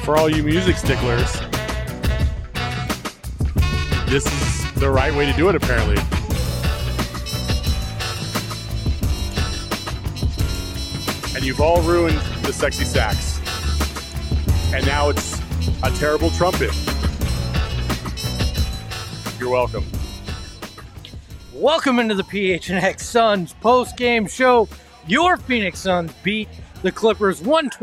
for all you music sticklers, this is the right way to do it, apparently. And you've all ruined the sexy sax. And now it's a terrible trumpet. You're welcome. Welcome into the PHNX Suns post-game show. Your Phoenix Suns beat the Clippers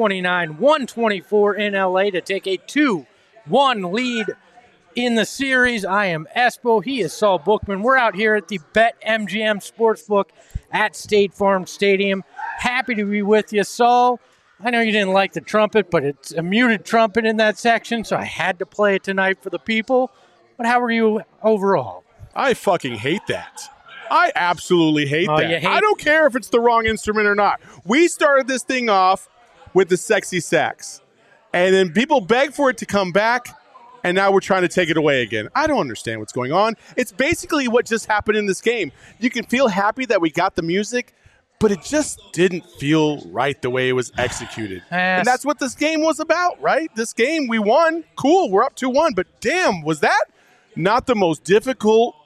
129-124 in LA to take a 2-1 lead in the series. I am Espo. He is Saul Bookman. We're out here at the BetMGM Sportsbook at State Farm Stadium. Happy to be with you, Saul. I know you didn't like the trumpet, but it's a muted trumpet in that section, so I had to play it tonight for the people. But how are you overall? I fucking hate that. I absolutely hate that. I don't care if it's the wrong instrument or not. We started this thing off with the sexy sax, and then people begged for it to come back, and now we're trying to take it away again. I don't understand what's going on. It's basically what just happened in this game. You can feel happy that we got the music, but it just didn't feel right the way it was executed. And that's what this game was about, right? This game, we won. Cool, we're up 2-1, but damn, was that not the most difficult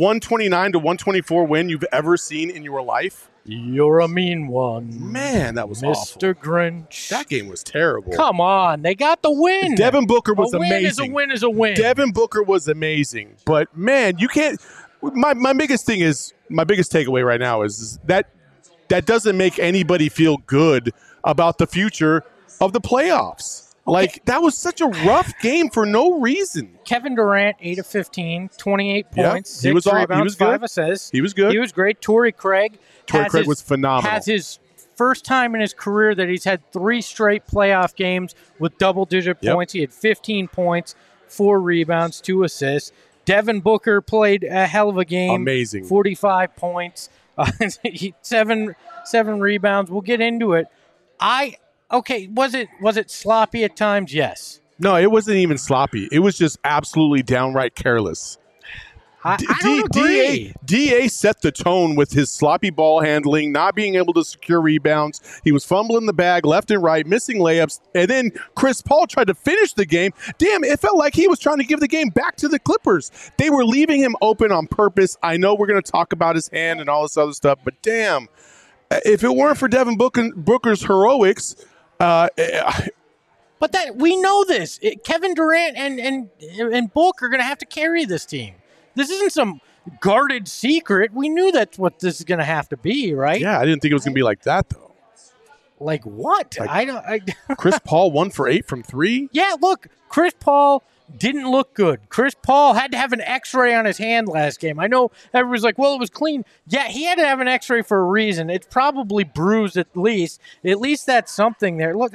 129-124 win you've ever seen in your life? You're a mean one. Man, that was awful. Mr. Grinch. That game was terrible. Come on, they got the win. Devin Booker was amazing. A win is a win. Devin Booker was amazing. But, man, you can't – my biggest thing is – my biggest takeaway right now is that doesn't make anybody feel good about the future of the playoffs. Like, that was such a rough game for no reason. Kevin Durant, 8 of 15, 28 points, 6 rebounds, he was 5 assists. He was good. He was great. Torrey Craig was phenomenal. Has his first time in his career that he's had 3 straight playoff games with double-digit points. He had 15 points, 4 rebounds, 2 assists. Devin Booker played a hell of a game. Amazing. 45 points, 7 rebounds. We'll get into it. Okay, was it sloppy at times? Yes. No, it wasn't even sloppy. It was just absolutely downright careless. I don't agree. DA set the tone with his sloppy ball handling, not being able to secure rebounds. He was fumbling the bag left and right, missing layups. And then Chris Paul tried to finish the game. Damn, it felt like he was trying to give the game back to the Clippers. They were leaving him open on purpose. I know we're going to talk about his hand and all this other stuff, but damn, if it weren't for Devin Booker's heroics, but that we know this. Kevin Durant and Book are going to have to carry this team. This isn't some guarded secret. We knew that's what this is going to have to be, right? Yeah, I didn't think it was going to be like that, though. Like what? Chris Paul 1 for 8 from 3? Yeah, look, Chris Paul didn't look good. Chris Paul had to have an X-ray on his hand last game. I know everybody's like, well, it was clean. Yeah, he had to have an X-ray for a reason. It's probably bruised at least. At least that's something there. Look,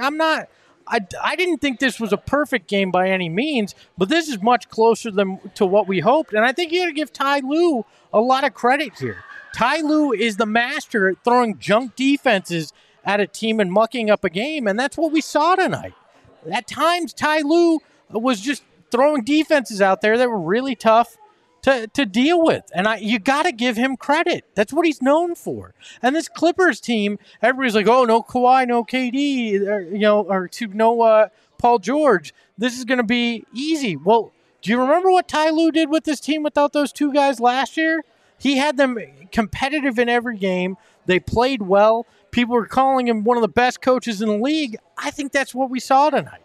I didn't think this was a perfect game by any means, but this is much closer to what we hoped. And I think you got to give Ty Lue a lot of credit here. Ty Lue is the master at throwing junk defenses at a team and mucking up a game, and that's what we saw tonight. At times, Ty Lue was just throwing defenses out there that were really tough to deal with. And you got to give him credit. That's what he's known for. And this Clippers team, everybody's like, oh, no Kawhi, no KD, no Paul George. This is going to be easy. Well, do you remember what Ty Lue did with this team without those 2 guys last year? He had them competitive in every game. They played well. People were calling him one of the best coaches in the league. I think that's what we saw tonight.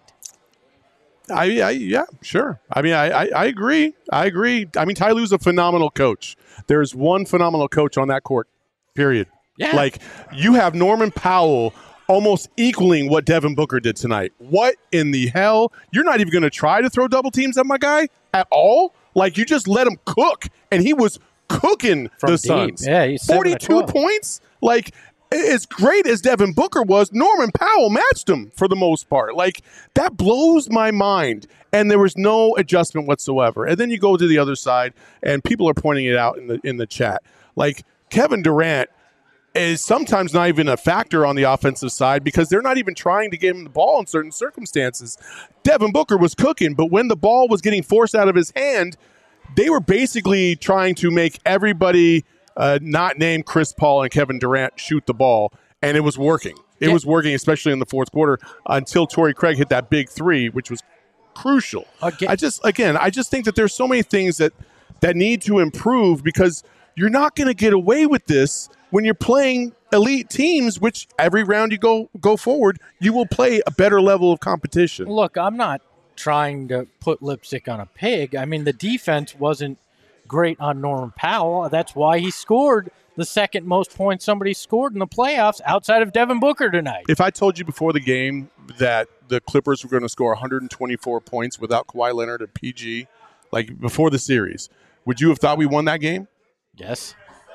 Yeah, sure. I mean, I agree. I mean, Ty Lue's a phenomenal coach. There's one phenomenal coach on that court, period. Yeah. Like, you have Norman Powell almost equaling what Devin Booker did tonight. What in the hell? You're not even going to try to throw double teams at my guy at all? Like, you just let him cook, and he was cooking from the deep. Suns. Yeah, he's 42 points? Like, as great as Devin Booker was, Norman Powell matched him for the most part. Like, that blows my mind. And there was no adjustment whatsoever. And then you go to the other side, and people are pointing it out in the chat. Like, Kevin Durant is sometimes not even a factor on the offensive side because they're not even trying to get him the ball in certain circumstances. Devin Booker was cooking, but when the ball was getting forced out of his hand, they were basically trying to make everybody not named Chris Paul and Kevin Durant shoot the ball, and it was working. It was working, especially in the fourth quarter, until Torrey Craig hit that big three, which was crucial. I just think that there's so many things that need to improve, because you're not going to get away with this when you're playing elite teams, which every round you go forward, you will play a better level of competition. Look, I'm not trying to put lipstick on a pig. I mean, the defense wasn't great on Norman Powell. That's why he scored the second most points somebody scored in the playoffs outside of Devin Booker tonight. If I told you before the game that the Clippers were going to score 124 points without Kawhi Leonard and PG, like before the series, would you have thought we won that game? Yes.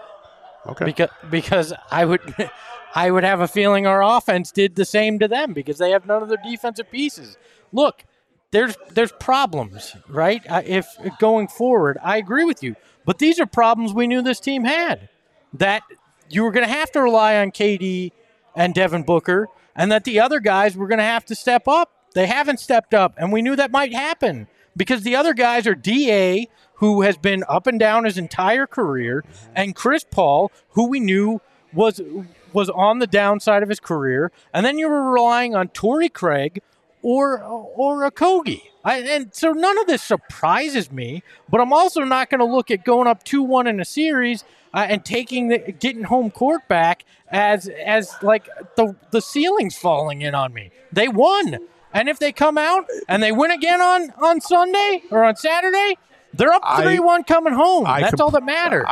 Okay. Because I would have a feeling our offense did the same to them, because they have none of their defensive pieces. Look, there's problems, right? If going forward, I agree with you. But these are problems we knew this team had, that you were going to have to rely on KD and Devin Booker, and that the other guys were going to have to step up. They haven't stepped up, and we knew that might happen, because the other guys are D.A., who has been up and down his entire career, and Chris Paul, who we knew was on the downside of his career, and then you were relying on Torrey Craig or Okogie. And so none of this surprises me, but I'm also not going to look at going up 2-1 in a series and getting home court back as like the ceiling's falling in on me. They won. And if they come out and they win again on Sunday or on Saturday, they're up 3-1 coming home. That's all that matters.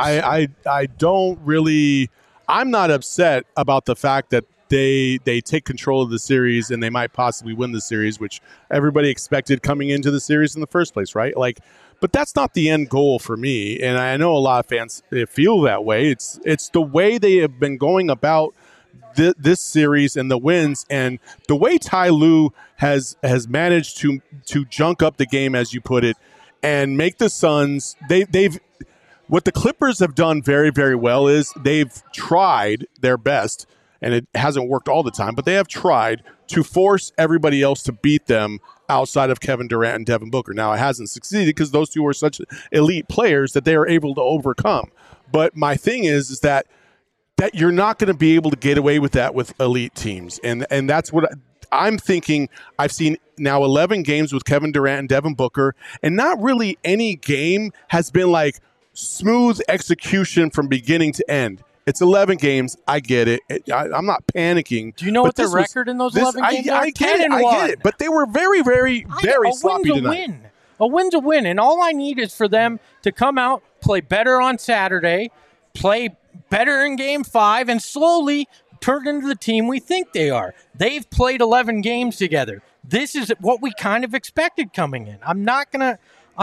I don't really – I'm not upset about the fact that they take control of the series and they might possibly win the series, which everybody expected coming into the series in the first place, right? Like, but that's not the end goal for me, and I know a lot of fans feel that way. It's the way they have been going about this series and the wins, and the way Ty Lue has managed to junk up the game, as you put it, and make the Suns. They've what the Clippers have done very, very well is they've tried their best. And it hasn't worked all the time, but they have tried to force everybody else to beat them outside of Kevin Durant and Devin Booker. Now, it hasn't succeeded because those two are such elite players that they are able to overcome. But my thing is that you're not going to be able to get away with that with elite teams. And that's what I'm thinking. I've seen now 11 games with Kevin Durant and Devin Booker, and not really any game has been like smooth execution from beginning to end. It's 11 games. I get it. I'm not panicking. Do you know what the record in those 11 games are? I get it. But they were very, very, very sloppy tonight. A win's a win. And all I need is for them to come out, play better on Saturday, play better in Game 5, and slowly turn into the team we think they are. They've played 11 games together. This is what we kind of expected coming in. I'm not gonna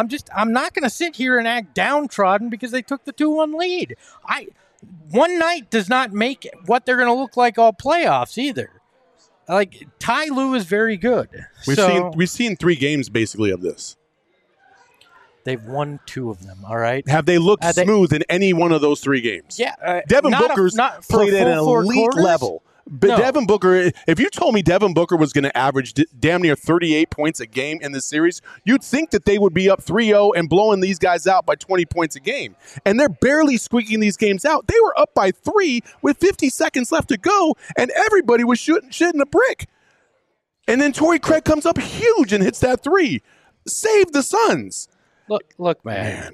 sit here and act downtrodden because they took the 2-1 lead. One night does not make what they're going to look like all playoffs either. Like, Ty Lue is very good. We've seen 3 games basically of this. They've won 2 of them, all right? Have they looked smooth in any one of those 3 games? Yeah. Devin Booker's played at an elite level. But no. Devin Booker, if you told me Devin Booker was going to average damn near 38 points a game in this series, you'd think that they would be up 3-0 and blowing these guys out by 20 points a game. And they're barely squeaking these games out. They were up by 3 with 50 seconds left to go, and everybody was shitting a brick. And then Torrey Craig comes up huge and hits that 3. Save the Suns. Look, man.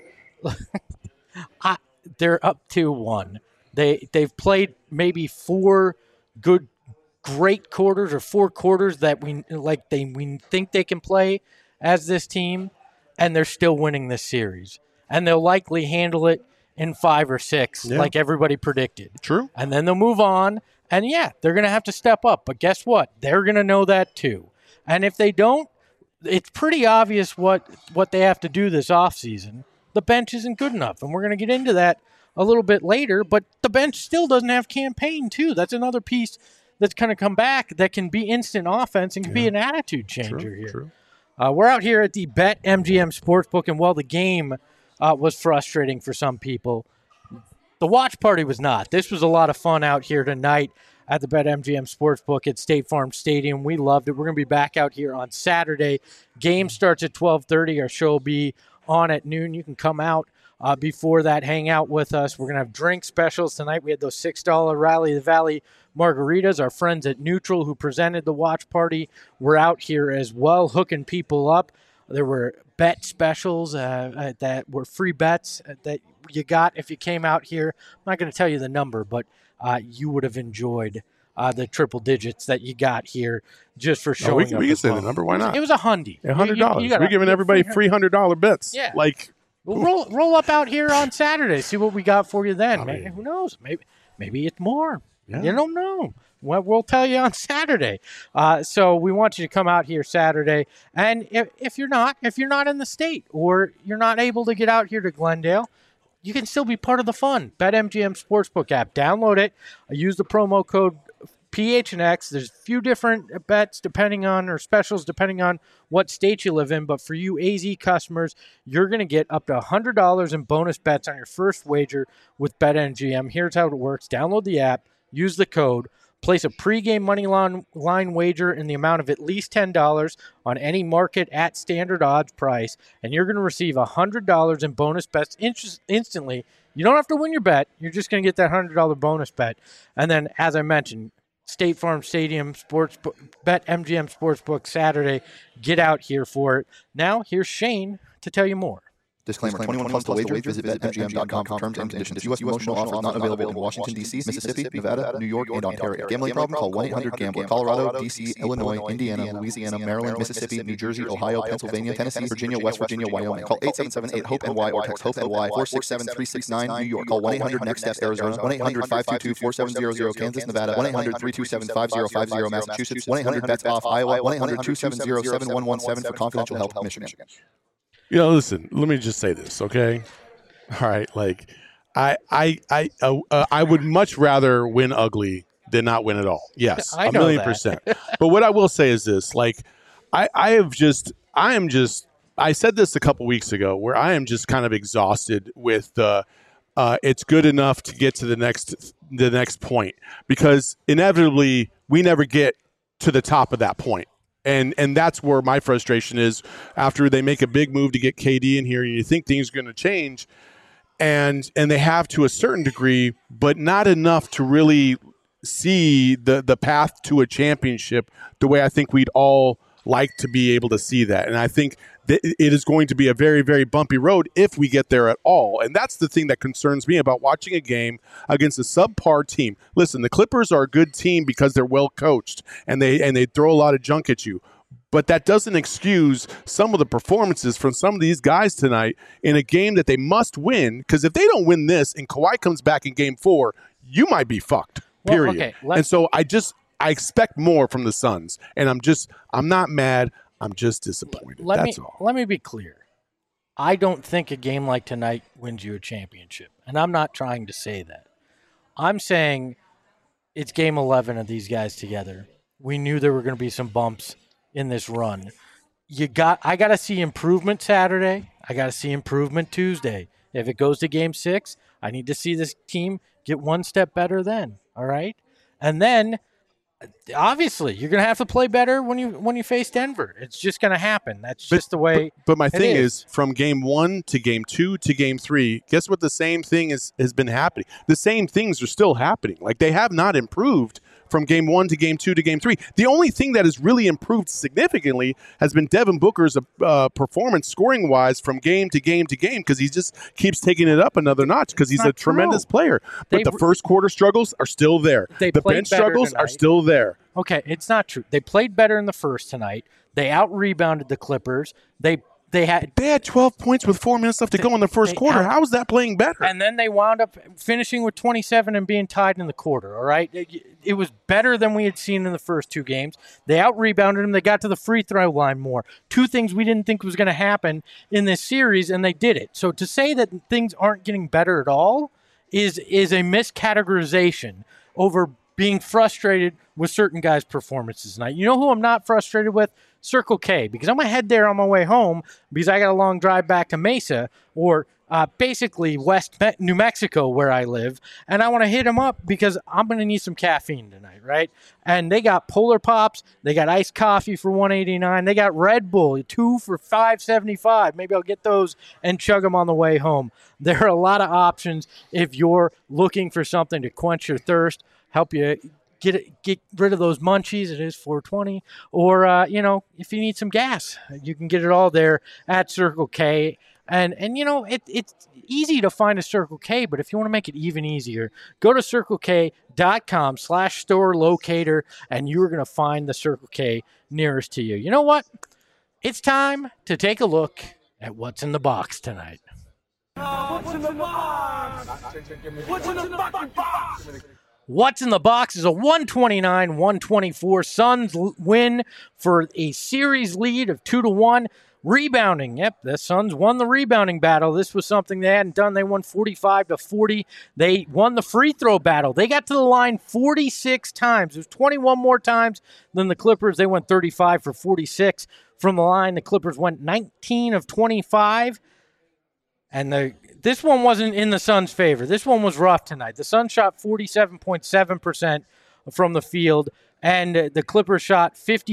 They're up 2-1. They've played maybe 4 great quarters or 4 quarters that we think they can play as this team, and they're still winning this series. And they'll likely handle it in 5 or 6, like everybody predicted. True. And then they'll move on, and they're going to have to step up. But guess what? They're going to know that too. And if they don't, it's pretty obvious what they have to do this offseason. The bench isn't good enough, and we're going to get into that a little bit later, but the bench still doesn't have campaign, too. That's another piece that's going to come back that can be instant offense and can be an attitude changer here. True. We're out here at the BetMGM Sportsbook, and while the game was frustrating for some people, the watch party was not. This was a lot of fun out here tonight at the BetMGM Sportsbook at State Farm Stadium. We loved it. We're going to be back out here on Saturday. Game starts at 12:30. Our show will be on at noon. You can come out before that, hang out with us. We're going to have drink specials tonight. We had those $6 Rally the Valley margaritas. Our friends at Neutral, who presented the watch party, were out here as well, hooking people up. There were bet specials that were free bets that you got if you came out here. I'm not going to tell you the number, but you would have enjoyed the triple digits that you got here just for showing up. We can say the number. Why not? It was $100. $100. We're giving everybody free $100 bets. Yeah. We'll roll up out here on Saturday. See what we got for you then. Who knows? Maybe it's more. Yeah. You don't know. We'll tell you on Saturday. So we want you to come out here Saturday. And if you're not in the state or you're not able to get out here to Glendale, you can still be part of the fun. BetMGM Sportsbook app. Download it. Use the promo code PHNX. There's a few different bets specials depending on what state you live in. But for you AZ customers, you're going to get up to $100 in bonus bets on your first wager with BetMGM. Here's how it works. Download the app. Use the code. Place a pregame money line wager in the amount of at least $10 on any market at standard odds price, and you're going to receive $100 in bonus bets instantly. You don't have to win your bet. You're just going to get that $100 bonus bet. And then, as I mentioned, State Farm Stadium Sportsbook, BetMGM Sportsbook Saturday. Get out here for it. Now, here's Shane to tell you more. Disclaimer, 21 plus to wager. Visit BetMGM.com for terms and conditions. U.S. promotional offer not available in Washington, D.C., Mississippi, Nevada, New York, and Ontario. Gambling problem? Call 1-800-GAMBLER. Colorado, D.C., Illinois, Indiana, Louisiana, Maryland, Mississippi, New Jersey, Ohio, Pennsylvania, Tennessee, Virginia, West Virginia, Wyoming. Call 877-8-HOPE-NY or text HOPE-NY 467-369 New York. Call 1-800-NEXT-STEPS Arizona. 1-800-522-4700 Kansas, Nevada. 1-800-327-5050 Massachusetts. 1-800-BETS-OFF Iowa. 1-800-270-7117 for confidential help Michigan. Listen, let me just say this, okay? All right, I would much rather win ugly than not win at all. Yes, I know 1,000,000%. But what I will say is this, I said this a couple weeks ago where I am just kind of exhausted with it's good enough to get to the next point, because inevitably we never get to the top of that point. And that's where my frustration is after they make a big move to get KD in here and you think things are going to change, and they have to a certain degree, but not enough to really see the path to a championship the way I think we'd all like to be able to see that. And I think that it is going to be a very, very bumpy road if we get there at all. And that's the thing that concerns me about watching a game against a subpar team. Listen, the Clippers are a good team because they're well coached and they throw a lot of junk at you. But that doesn't excuse some of the performances from some of these guys tonight in a game that they must win, because if they don't win this and Kawhi comes back in game 4, you might be fucked, period. Well, okay, and so I expect more from the Suns, and I'm not mad. I'm just disappointed. That's all. Let me be clear. I don't think a game like tonight wins you a championship, and I'm not trying to say that. I'm saying it's game 11 of these guys together. We knew there were going to be some bumps in this run. I got to see improvement Saturday. I got to see improvement Tuesday. If it goes to game 6, I need to see this team get one step better then, all right? And then obviously, you're going to have to play better when you face Denver. It's just going to happen. That's just the way. But my thing is, from game 1 to game 2 to game 3, guess what? The same thing has been happening. The same things are still happening. They have not improved from game 1 to game 2 to game 3. The only thing that has really improved significantly has been Devin Booker's performance scoring-wise from game to game to game, because he just keeps taking it up another notch because he's a tremendous player. But the first quarter struggles are still there. The bench struggles are still there. Okay, it's not true. They played better in the first tonight. They out-rebounded the Clippers. They had 12 points with 4 minutes left to go in the first quarter. How is that playing better? And then they wound up finishing with 27 and being tied in the quarter, all right? It was better than we had seen in the first 2 games. They out-rebounded them. They got to the free throw line more. 2 things we didn't think was going to happen in this series, and they did it. So to say that things aren't getting better at all is a miscategorization over being frustrated with certain guys' performances tonight. You know who I'm not frustrated with? Circle K, because I'm going to head there on my way home because I got a long drive back to Mesa, or basically West New Mexico, where I live, and I want to hit them up because I'm going to need some caffeine tonight, right? And they got Polar Pops, they got iced coffee for $1.89, they got Red Bull 2 for $5.75. Maybe I'll get those and chug them on the way home. There are a lot of options if you're looking for something to quench your thirst, help you get rid of those munchies. It is $4.20, or if you need some gas, you can get it all there at Circle K. And it's easy to find a Circle K, but if you want to make it even easier, go to circlek.com/store locator, and you're going to find the Circle K nearest to you. You know what? It's time to take a look at what's in the box tonight. What's in the box? What's in the box? What's in the box is a 129-124 Suns win for a series lead of 2-1. Rebounding. Yep, the Suns won the rebounding battle. This was something they hadn't done. They won 45-40. They won the free throw battle. They got to the line 46 times. It was 21 more times than the Clippers. They went 35 for 46 from the line. The Clippers went 19 of 25. And this one wasn't in the Suns' favor. This one was rough tonight. The Suns shot 47.7% from the field, and the Clippers shot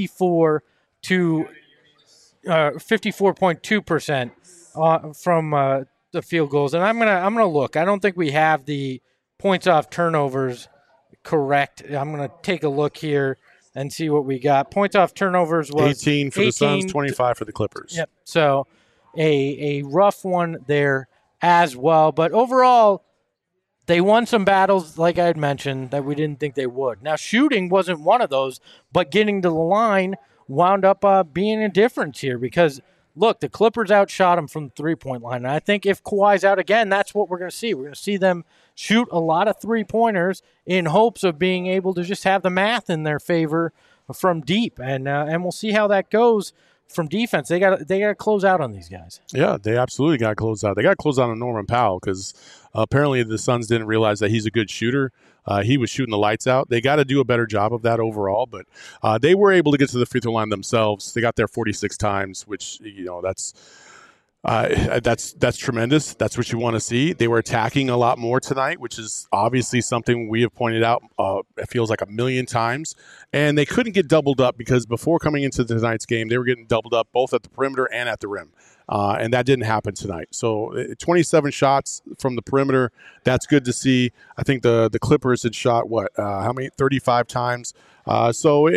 54.2% from the field goals. And I'm gonna look. I don't think we have the points off turnovers correct. I'm gonna take a look here and see what we got. Points off turnovers was 18 for the Suns, 25 for the Clippers. Yep. So a rough one there as well. But overall, they won some battles, like I had mentioned, that we didn't think they would. Now, shooting wasn't one of those, but getting to the line wound up being a difference here because, look, the Clippers outshot them from the three-point line. And I think if Kawhi's out again, that's what we're going to see. We're going to see them shoot a lot of three-pointers in hopes of being able to just have the math in their favor from deep. And we'll see how that goes. From defense, they got to close out on these guys. Yeah, they absolutely got to close out. They got to close out on Norman Powell because apparently the Suns didn't realize that he's a good shooter. He was shooting the lights out. They got to do a better job of that overall, but they were able to get to the free throw line themselves. They got there 46 times, which that's tremendous. That's what you want to see. They were attacking a lot more tonight, which is obviously something we have pointed out. It feels like a million times, and they couldn't get doubled up because before coming into tonight's game, they were getting doubled up both at the perimeter and at the rim. And that didn't happen tonight. So 27 shots from the perimeter. That's good to see. I think the Clippers had shot, 35 times. I'm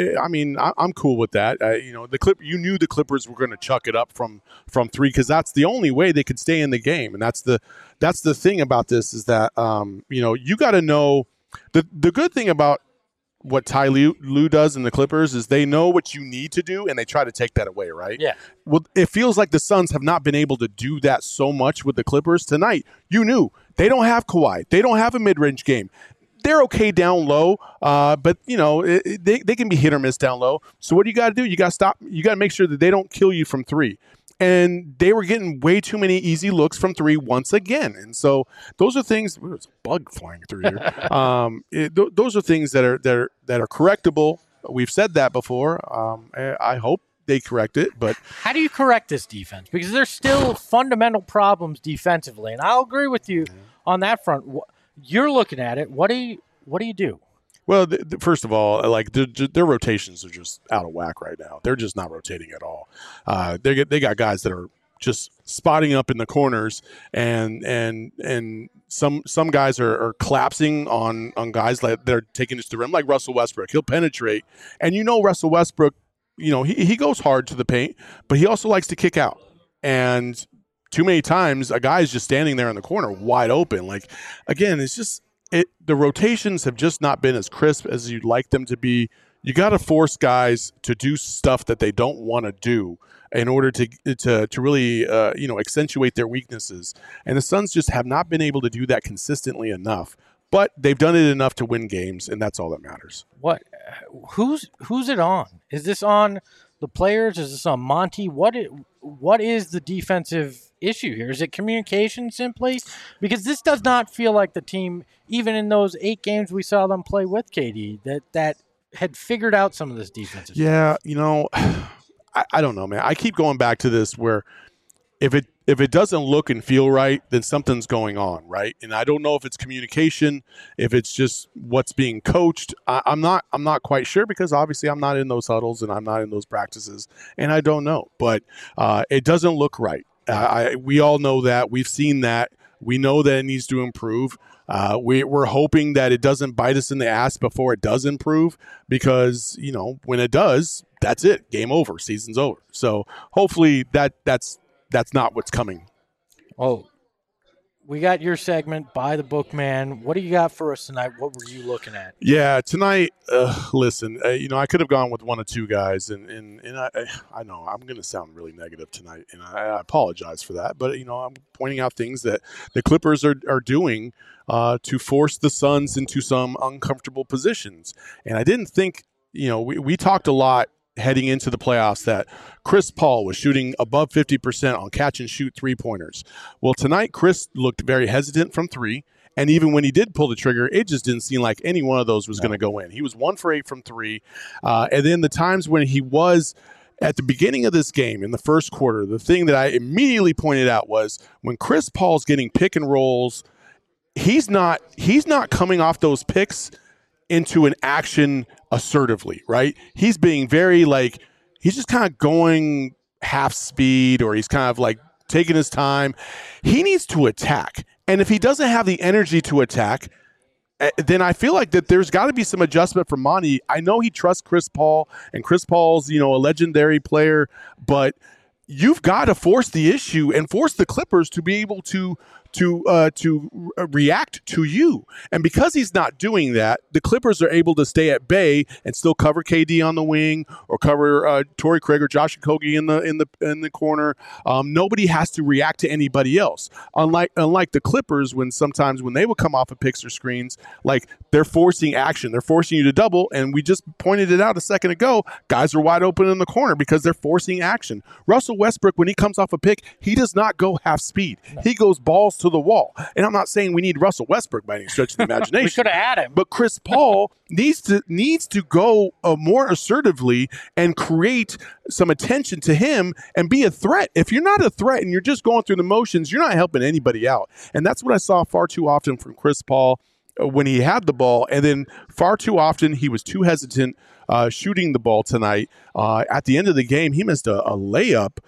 cool with that. You knew the Clippers were going to chuck it up from three because that's the only way they could stay in the game. And that's the thing about this is that, you got to know the good thing about what Ty Lue does in the Clippers is they know what you need to do, and they try to take that away, right? Yeah. Well, it feels like the Suns have not been able to do that so much with the Clippers. Tonight, you knew they don't have Kawhi. They don't have a mid-range game. They're okay down low, but, they can be hit or miss down low. So what do you got to do? You got to stop. You got to make sure that they don't kill you from three. And they were getting way too many easy looks from three once again. And so those are things. There's a bug flying through here. Those are things that are correctable. We've said that before. I hope they correct it. But how do you correct this defense? Because there's still fundamental problems defensively, and I'll agree with you on that front. You're looking at it. What do you do? Well, first of all, their rotations are just out of whack right now. They're just not rotating at all. They got guys that are just spotting up in the corners, and some guys are collapsing on guys that are taking it to the rim, like Russell Westbrook. He'll penetrate, and Russell Westbrook, he goes hard to the paint, but he also likes to kick out. And too many times, a guy is just standing there in the corner, wide open. Again, it's just. The rotations have just not been as crisp as you'd like them to be. You got to force guys to do stuff that they don't want to do in order to really accentuate their weaknesses. And the Suns just have not been able to do that consistently enough. But they've done it enough to win games, and that's all that matters. What? Who's it on? Is this on the players? Is this on Monty? What is the defensive issue here? Is it communication simply? Because this does not feel like the team, even in those 8 games we saw them play with KD, that had figured out some of this defensive stuff. Yeah, I don't know, man. I keep going back to this where if it doesn't look and feel right, then something's going on, right? And I don't know if it's communication, if it's just what's being coached. I'm not quite sure, because obviously I'm not in those huddles and I'm not in those practices, and I don't know. But it doesn't look right. We all know that. We've seen that. We know that it needs to improve. We're hoping that it doesn't bite us in the ass before it does improve, because, when it does, that's it. Game over. Season's over. So hopefully that's not what's coming. Oh, we got your segment, By the Book Man. What do you got for us tonight? What were you looking at? Yeah, tonight, listen, I could have gone with one of two guys, and I know I'm going to sound really negative tonight, and I apologize for that. But, I'm pointing out things that the Clippers are doing to force the Suns into some uncomfortable positions. And I didn't think, we talked a lot heading into the playoffs that Chris Paul was shooting above 50% on catch and shoot three-pointers. Well, tonight Chris looked very hesitant from three, and even when he did pull the trigger, it just didn't seem like any one of those was going to go in. He was 1 for 8 from three, and then the times when he was at the beginning of this game in the first quarter, the thing that I immediately pointed out was when Chris Paul's getting pick and rolls, he's not coming off those picks into an action assertively, right? He's being very he's just kind of going half speed, or he's kind of taking his time. He needs to attack. And if he doesn't have the energy to attack, then I feel like that there's got to be some adjustment from Monty. I know he trusts Chris Paul, and Chris Paul's, a legendary player, but you've got to force the issue and force the Clippers to be able to react to you. And because he's not doing that, the Clippers are able to stay at bay and still cover KD on the wing, or cover Torrey Craig or Josh Okogie in the corner. Nobody has to react to anybody else. Unlike the Clippers, sometimes when they would come off of picks or screens, they're forcing action. They're forcing you to double, and we just pointed it out a second ago. Guys are wide open in the corner because they're forcing action. Russell Westbrook, when he comes off a pick, he does not go half speed. He goes balls to the wall. And I'm not saying we need Russell Westbrook by any stretch of the imagination. We could have had him. But Chris Paul needs to go more assertively and create some attention to him and be a threat. If you're not a threat and you're just going through the motions, you're not helping anybody out. And that's what I saw far too often from Chris Paul when he had the ball. And then far too often he was too hesitant shooting the ball tonight. At the end of the game, he missed a layup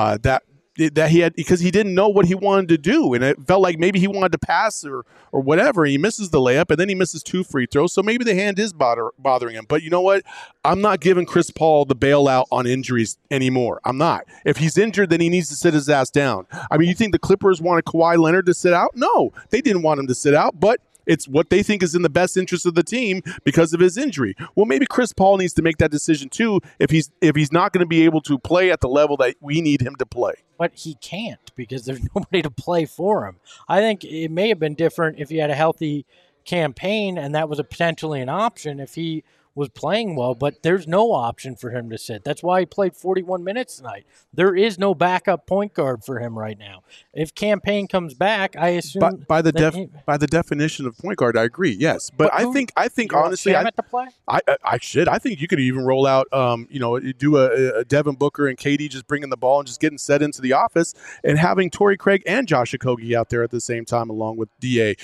that he had, because he didn't know what he wanted to do, and it felt like maybe he wanted to pass or whatever. He misses the layup, and then he misses 2 free throws, so maybe the hand is bothering him. But you know what? I'm not giving Chris Paul the bailout on injuries anymore. I'm not. If he's injured, then he needs to sit his ass down. I mean, you think the Clippers wanted Kawhi Leonard to sit out? No, they didn't want him to sit out, but it's what they think is in the best interest of the team because of his injury. Well, maybe Chris Paul needs to make that decision too if he's not going to be able to play at the level that we need him to play. But he can't, because there's nobody to play for him. I think it may have been different if he had a healthy campaign, and that was potentially an option if he was playing well, but there's no option for him to sit. That's why he played 41 minutes tonight. There is no backup point guard for him right now. If Campaign comes back, I assume by the definition of point guard, I agree. Yes, but I think honestly, to play? I should. I think you could even roll out, do a Devin Booker and KD just bringing the ball and just getting set into the office, and having Torrey Craig and Josh Okogie out there at the same time along with DA.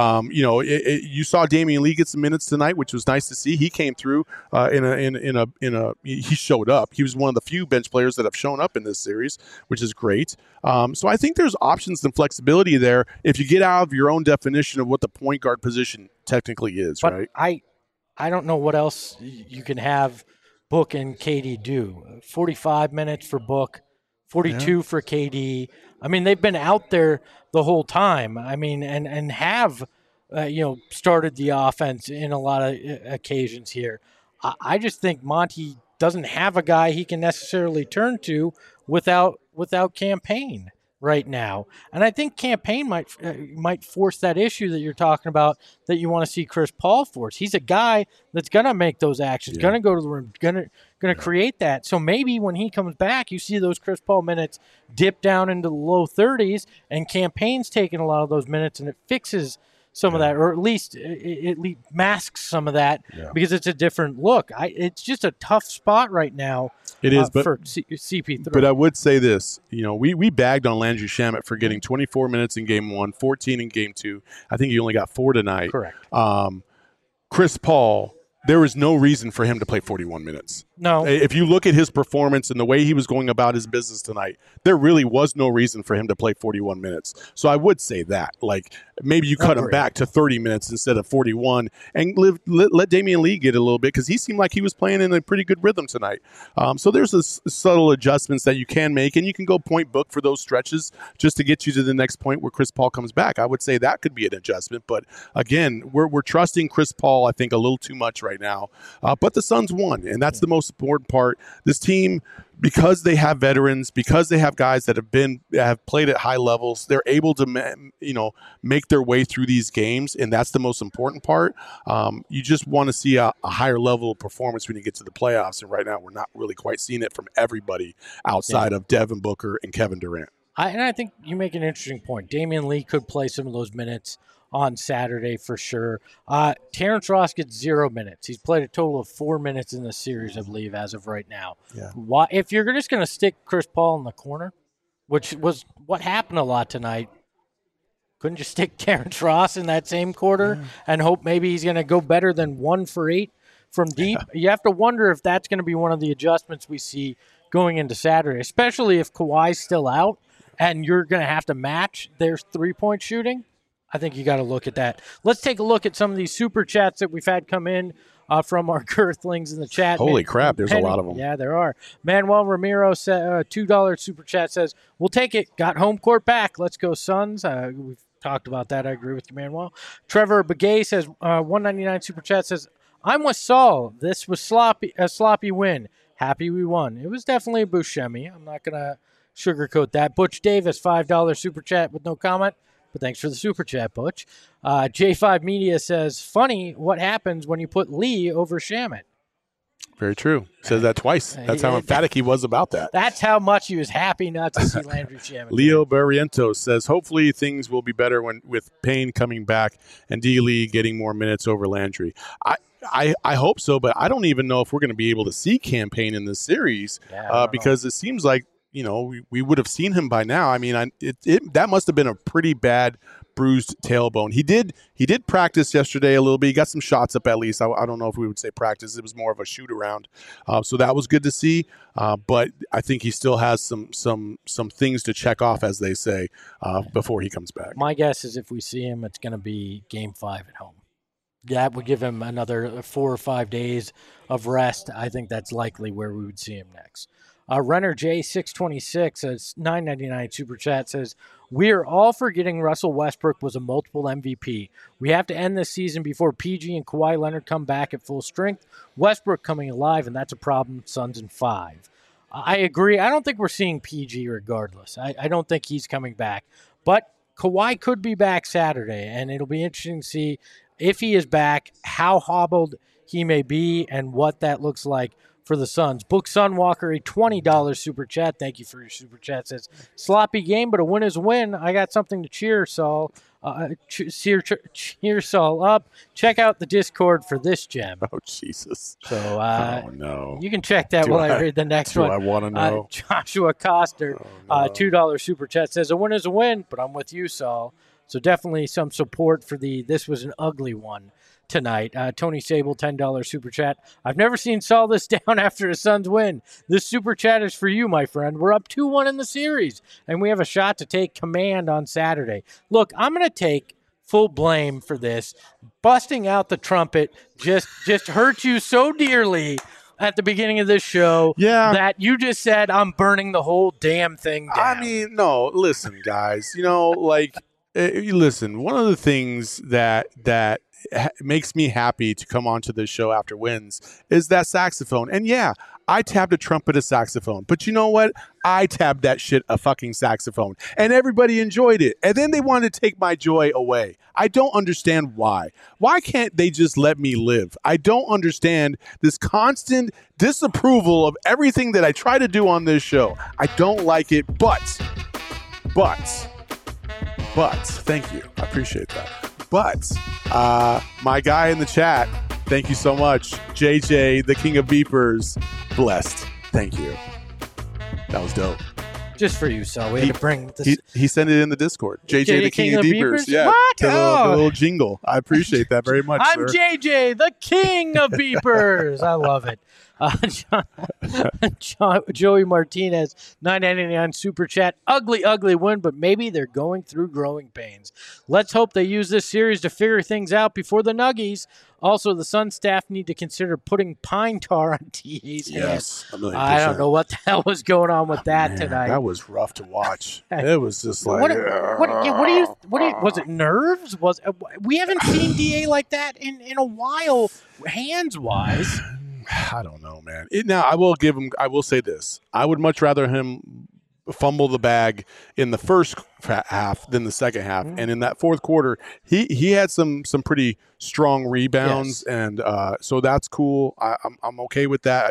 You saw Damian Lee get some minutes tonight, which was nice to see. He came through he showed up. He was one of the few bench players that have shown up in this series, which is great. So I think there's options and flexibility there if you get out of your own definition of what the point guard position technically is, but right? I don't know what else you can have Book and KD do. 45 minutes for Book, 42 for KD. I mean, they've been out there the whole time. I mean, and have started the offense in a lot of occasions here. I just think Monty doesn't have a guy he can necessarily turn to without Campaign right now. And I think Campaign might force that issue that you're talking about that you want to see Chris Paul force. He's a guy that's going to make those actions, going to go to the rim, going to create that. So maybe when he comes back, you see those Chris Paul minutes dip down into the low 30s, and Campaign's taking a lot of those minutes, and it fixes some of that, or at least it masks some of that because it's a different look. It's just a tough spot right now. It is, but for CP3. But I would say this, we bagged on Landry Shamet for getting 24 minutes in game 1, 14 in game 2. I think he only got 4 tonight. Correct. Chris Paul, there was no reason for him to play 41 minutes. No. If you look at his performance and the way he was going about his business tonight, there really was no reason for him to play 41 minutes. So I would say that. Like, maybe you cut him back to 30 minutes instead of 41 and let Damian Lee get a little bit because he seemed like he was playing in a pretty good rhythm tonight. So there's subtle adjustments that you can make, and you can go point book for those stretches just to get you to the next point where Chris Paul comes back. I would say that could be an adjustment. But, again, we're trusting Chris Paul, I think, a little too much right now. But the Suns won, and that's the most important part. This team, because they have veterans, because they have guys that have played at high levels, they're able to make their way through these games, and that's the most important part. You just want to see a higher level of performance when you get to the playoffs, and right now we're not really quite seeing it from everybody outside of Devin Booker and Kevin Durant. I think you make an interesting point. Damian Lee could play some of those minutes on Saturday for sure. Terrence Ross gets 0 minutes. He's played a total of 4 minutes in the series, I believe, as of right now. Yeah. If you're just going to stick Chris Paul in the corner, which was what happened a lot tonight, couldn't you stick Terrence Ross in that same quarter and hope maybe he's going to go better than 1 for 8 from deep? You have to wonder if that's going to be one of the adjustments we see going into Saturday, especially if Kawhi's still out and you're going to have to match their three-point shooting. I think you got to look at that. Let's take a look at some of these super chats that we've had come in from our Girthlings in the chat. Holy crap, there's a lot of them. Yeah, there are. Manuel Ramiro said, $2 super chat says, we'll take it. Got home court back. Let's go Suns. We've talked about that. I agree with you, Manuel. Trevor Begay says, $1.99 super chat says, I'm with Saul. This was a sloppy win. Happy we won. It was definitely a Buscemi. I'm not going to sugarcoat that. Butch Davis, $5 super chat with no comment. But thanks for the super chat, Butch. J5 Media says, funny what happens when you put Lee over Shamet. Very true. Says that twice. That's how emphatic he was about that. That's how much he was happy not to see Landry Shamet. Leo Barrientos says, hopefully things will be better with Payne coming back and D. Lee getting more minutes over Landry. I hope so, but I don't even know if we're going to be able to see Cam Payne in this series because it seems like, we would have seen him by now. I mean, that must have been a pretty bad bruised tailbone. He did practice yesterday a little bit. He got some shots up at least. I don't know if we would say practice. It was more of a shoot around. So that was good to see. But I think he still has some things to check off, as they say, before he comes back. My guess is if we see him, it's going to be Game 5 at home. That would give him another 4 or 5 days of rest. I think that's likely where we would see him next. Renner J626 says $9.99 super chat says, we're all forgetting Russell Westbrook was a multiple MVP. We have to end this season before PG and Kawhi Leonard come back at full strength. Westbrook coming alive, and that's a problem. Suns in 5. I agree. I don't think we're seeing PG regardless. I don't think he's coming back. But Kawhi could be back Saturday, and it'll be interesting to see if he is back, how hobbled he may be, and what that looks like for the Suns. Book Sunwalker, a $20 super chat. Thank you for your super chat. Says, sloppy game, but a win is a win. I got something to cheer Saul. Cheer Saul up. Check out the Discord for this gem. Oh, Jesus. So, oh, no. You can check that while I read the next one. I want to know. Joshua Coster, $2 super chat says, a win is a win, but I'm with you, Saul. So definitely some support for this was an ugly one tonight. Tony Sable, $10 super chat. I've never seen Saul this down after a Suns win. This super chat is for you, my friend. We're up 2-1 in the series, and we have a shot to take command on Saturday. Look, I'm going to take full blame for this. Busting out the trumpet just hurt you so dearly at the beginning of this show that you just said I'm burning the whole damn thing down. I mean, no, listen, guys. Listen, one of the things that makes me happy to come onto this show after wins is that saxophone. And yeah, I tabbed a trumpet, a saxophone. But you know what? I tabbed that shit a fucking saxophone. And everybody enjoyed it. And then they wanted to take my joy away. I don't understand why. Why can't they just let me live? I don't understand this constant disapproval of everything that I try to do on this show. I don't like it, but, thank you. I appreciate that. But my guy in the chat, thank you so much. JJ, the king of beepers, blessed. Thank you. That was dope. Just for you, so we had to bring this. He sent it in the Discord. JJ, the king of beepers. Yeah, what? The little jingle. I appreciate that very much. I'm sir. JJ, the king of beepers. I love it. Joey Martinez, $9.99 super chat. Ugly win, but maybe they're going through growing pains. Let's hope they use this series to figure things out before the Nuggies. Also, the Sun staff need to consider putting pine tar on TA's hands. I don't know what the hell was going on with that tonight. That was rough to watch. It was just like, what do you? Was it nerves? We haven't seen DA like that in a while, hands wise. I don't know, man. Now, I will say this. I would much rather him fumble the bag in the first half than the second half. And in that fourth quarter, he had some pretty strong rebounds. Yes. And so that's cool. I'm okay with that.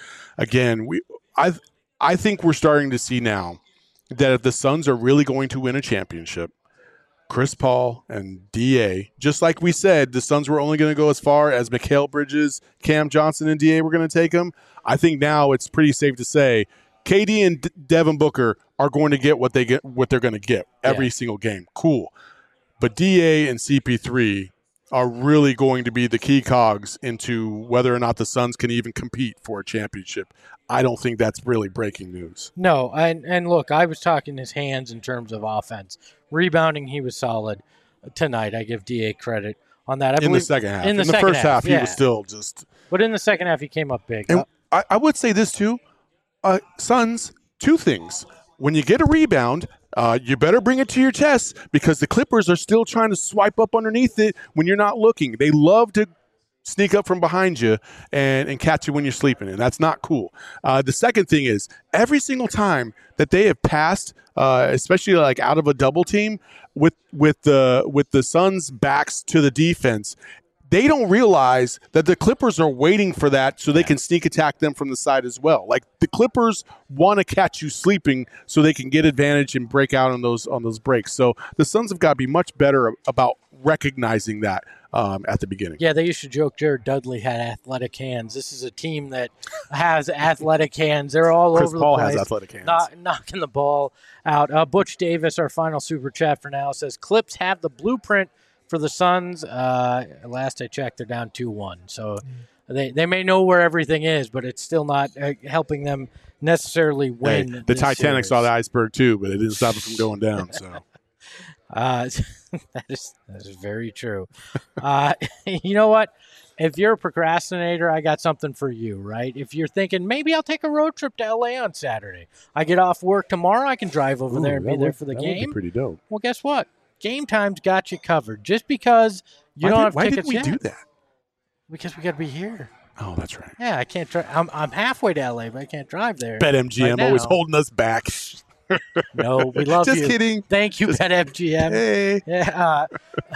I think we're starting to see now that if the Suns are really going to win a championship, Chris Paul and DA, just like we said, the Suns were only going to go as far as Mikal Bridges, Cam Johnson, and DA were going to take them. I think now it's pretty safe to say KD and Devin Booker are going to get what they're going to get every single game. Cool. But DA and CP3 are really going to be the key cogs into whether or not the Suns can even compete for a championship. I don't think that's really breaking news. No, and look, I was talking his hands in terms of offense. Rebounding, he was solid tonight. I give DA credit on that. In the second half. In the first half, he was still just... But in the second half, he came up big. And I would say this, too. Suns, two things. When you get a rebound, you better bring it to your chest because the Clippers are still trying to swipe up underneath it when you're not looking. They love to sneak up from behind you and catch you when you're sleeping, and that's not cool. The second thing is every single time that they have passed, especially like out of a double team with the Suns' backs to the defense, they don't realize that the Clippers are waiting for that so they can sneak attack them from the side as well. Like the Clippers want to catch you sleeping so they can get advantage and break out on those breaks. So the Suns have got to be much better about recognizing that at the beginning. Yeah, they used to joke Jared Dudley had athletic hands. This is a team that has athletic hands. They're all over the place. Chris Paul has athletic hands. Knocking the ball out. Butch Davis, our final super chat for now, says Clips have the blueprint for the Suns. Last I checked, they're down 2-1. So they may know where everything is, but it's still not helping them necessarily win. The Titanic series. Saw the iceberg too, but it didn't stop it from going down. So that is very true. You know what? If you're a procrastinator, I got something for you, right? If you're thinking, maybe I'll take a road trip to LA on Saturday. I get off work tomorrow. I can drive over there and be there for the game. Would be pretty dope. Well, guess what? Game Time's got you covered. Just because you don't have tickets yet. Why did we do that? Because we got to be here. Oh, that's right. Yeah, I can't drive. I'm halfway to LA, but I can't drive there. BetMGM always holding us back. No, we love you. Just kidding. Thank you, BetMGM. Hey. Yeah.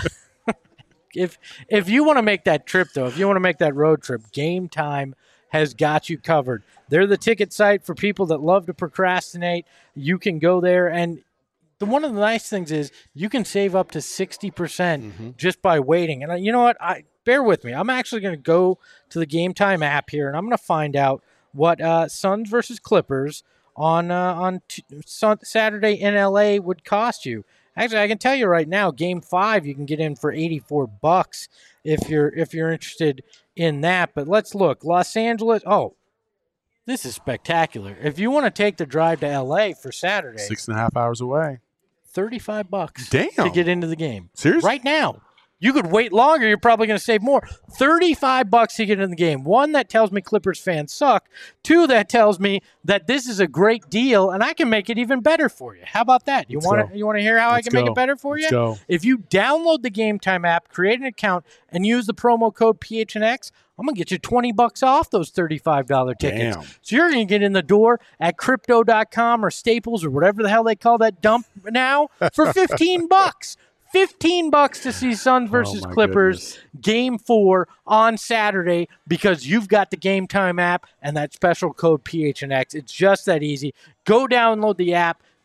If you want to make that trip, though, if you want to make that road trip, Game Time has got you covered. They're the ticket site for people that love to procrastinate. You can go there, and one of the nice things is you can save up to 60% just by waiting. And you know what? Bear with me. I'm actually going to go to the Game Time app here, and I'm going to find out what Suns versus Clippers on Saturday in LA would cost you. Actually, I can tell you right now, Game 5 you can get in for $84 if you're interested in that. But let's look. Los Angeles. Oh, this is spectacular. If you want to take the drive to LA for Saturday, 6.5 hours away, $35. Damn. To get into the game. Seriously? Right now. You could wait longer. You're probably going to save more. $35 to get in the game. One, that tells me Clippers fans suck. Two, that tells me that this is a great deal, and I can make it even better for you. How about that? You want to hear how I can make it better for you? Let's go. If you download the Game Time app, create an account, and use the promo code PHNX, I'm going to get you $20 off those $35 tickets. Damn. So you're going to get in the door at Crypto.com or Staples or whatever the hell they call that dump now for $15. $15 to see Suns versus Clippers Game 4 on Saturday because you've got the Game Time app and that special code PHNX. It's just that easy. Go download the app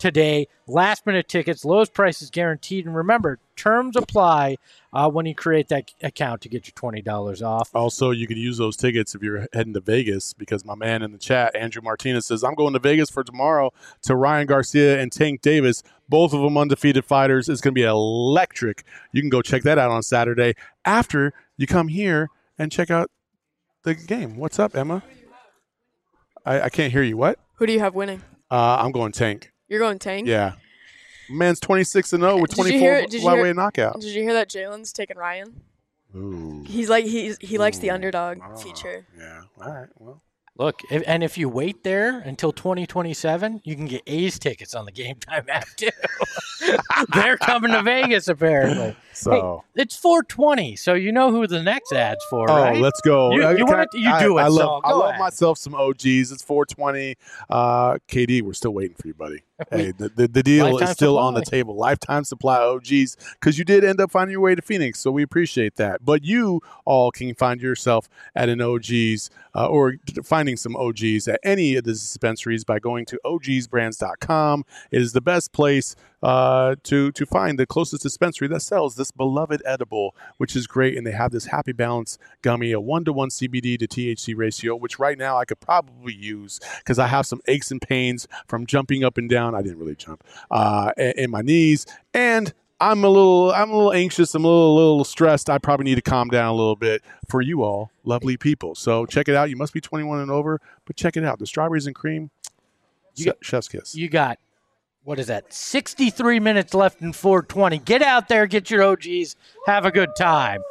today. Last-minute tickets, lowest prices guaranteed. And remember, terms apply when you create that account to get your $20 off. Also, you can use those tickets if you're heading to Vegas, because my man in the chat, Andrew Martinez, says, I'm going to Vegas for tomorrow to Ryan Garcia and Tank Davis. Both of them undefeated fighters. It's going to be electric. You can go check that out on Saturday after you come here and check out the game. What's up, Emma? I can't hear you. What? Who do you have winning? I'm going Tank. You're going Tank? Yeah. Man's 26-0 with 24 lightweight knockout. Did you hear that Jalen's taking Ryan? Ooh. He likes the underdog feature. Yeah. All right. Well. Look, if you wait there until 2027, you can get A's tickets on the Game Time app too. They're coming to Vegas apparently. So hey, it's 420, so you know who the next ad's for, right? Oh, let's go. You do it. I love ahead. myself some OGs. It's 420. KD, we're still waiting for you, buddy. Hey, the deal Lifetime is still supply. on the table. Lifetime supply OGs, because you did end up finding your way to Phoenix, so we appreciate that. But you all can find yourself at an OGs or finding some OGs at any of the dispensaries by going to ogsbrands.com. It is the best place to find the closest dispensary that sells this beloved edible, which is great. And they have this Happy Balance gummy, a 1-to-1 CBD to THC ratio, which right now I could probably use because I have some aches and pains from jumping up and down. I didn't really jump in my knees, and I'm a little anxious. I'm a little stressed. I probably need to calm down a little bit for you all, lovely people. So check it out. You must be 21 and over, but check it out. The strawberries and cream, chef's kiss. You got, what is that, 63 minutes left in 420. Get out there, get your OGs, have a good time.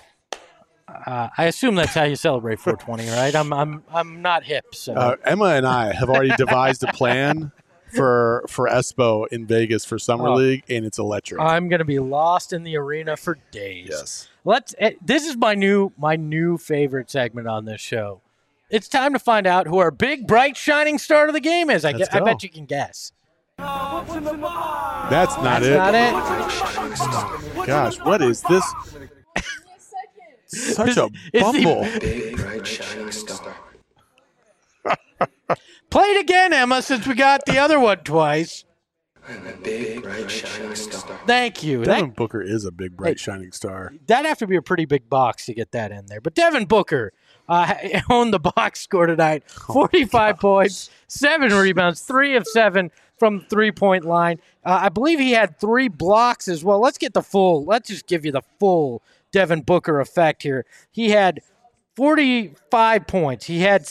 I assume that's how you celebrate 420, right? I'm not hip. So Emma and I have already devised a plan for Espo in Vegas for Summer League, and it's electric. I'm going to be lost in the arena for days. Yes. This is my new favorite segment on this show. It's time to find out who our big, bright, shining star of the game is. I bet you can guess. That's not it. Gosh, what is this? Such a bumble. Big, bright, shining star. Play it again, Emma, since we got the other one twice. I'm a big, bright, shining star. Thank you. Devin Booker is a big, bright, shining star. That'd have to be a pretty big box to get that in there. But Devin Booker owned the box score tonight. 45 points, 7 rebounds, 3 of 7 from the three-point line. I believe he had 3 blocks as well. Let's just give you the full Devin Booker effect here. He had 45 points. He had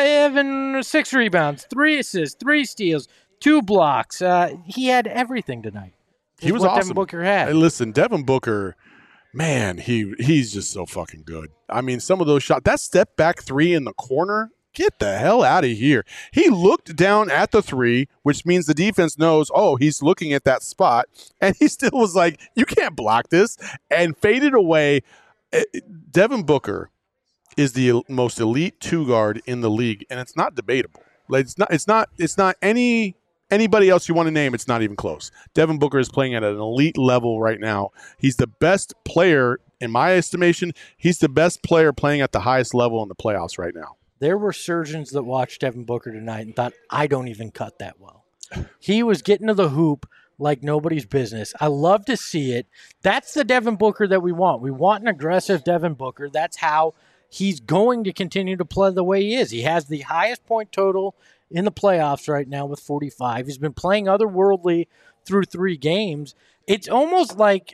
6 rebounds, 3 assists, 3 steals, 2 blocks. He had everything tonight. He was awesome. Devin Booker had. Hey, listen, Devin Booker, man, he's just so fucking good. I mean, some of those shots, that step back 3 in the corner, get the hell out of here. He looked down at the 3, which means the defense knows, he's looking at that spot, and he still was like, you can't block this, and faded away. Devin Booker is the most elite 2 guard in the league, and it's not debatable. Like it's not anybody else you want to name. It's not even close. Devin Booker is playing at an elite level right now. He's the best player in my estimation. He's the best player playing at the highest level in the playoffs right now. There were surgeons that watched Devin Booker tonight and thought, I don't even cut that well. He was getting to the hoop like nobody's business. I love to see it. That's the Devin Booker that we want. We want an aggressive Devin Booker. That's how he's going to continue to play the way he is. He has the highest point total in the playoffs right now with 45. He's been playing otherworldly through 3 games. It's almost like...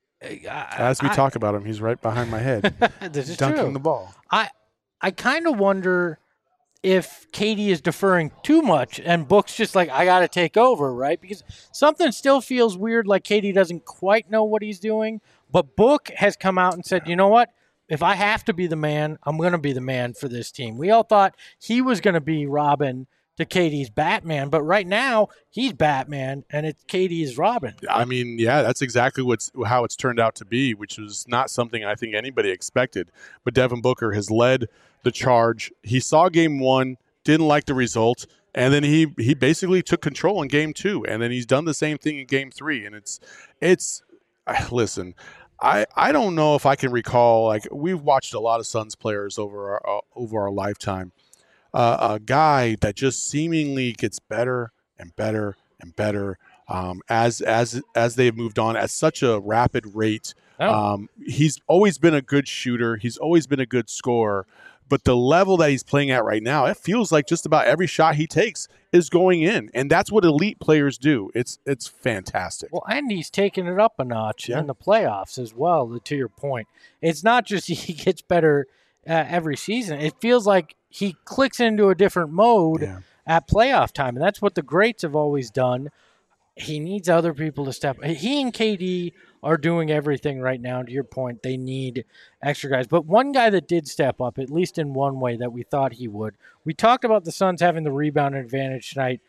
As we talk about him, he's right behind my head. This is dunking true. the ball. I kind of wonder if Katie is deferring too much and Book's just like, I got to take over, right? Because something still feels weird, like Katie doesn't quite know what he's doing. But Book has come out and said, you know what? If I have to be the man, I'm going to be the man for this team. We all thought he was going to be Robin to Katie's Batman, but right now he's Batman and it's Katie's Robin. I mean, yeah, that's exactly how it's turned out to be, which was not something I think anybody expected. But Devin Booker has led the charge. He saw game 1, didn't like the result, and then he basically took control in game 2, and then he's done the same thing in game 3. And it's listen, I don't know if I can recall, like, we've watched a lot of Suns players over our lifetime. A guy that just seemingly gets better and better and better as they've moved on at such a rapid rate. He's always been a good shooter. He's always been a good scorer. But the level that he's playing at right now, it feels like just about every shot he takes is going in. And that's what elite players do. It's fantastic. Well, and he's taking it up a notch in the playoffs as well, to your point. It's not just he gets better every season. It feels like he clicks into a different mode at playoff time. And that's what the greats have always done. He needs other people to step. He and KD are doing everything right now. To your point, they need extra guys. But one guy that did step up, at least in one way that we thought he would. We talked about the Suns having the rebound advantage tonight,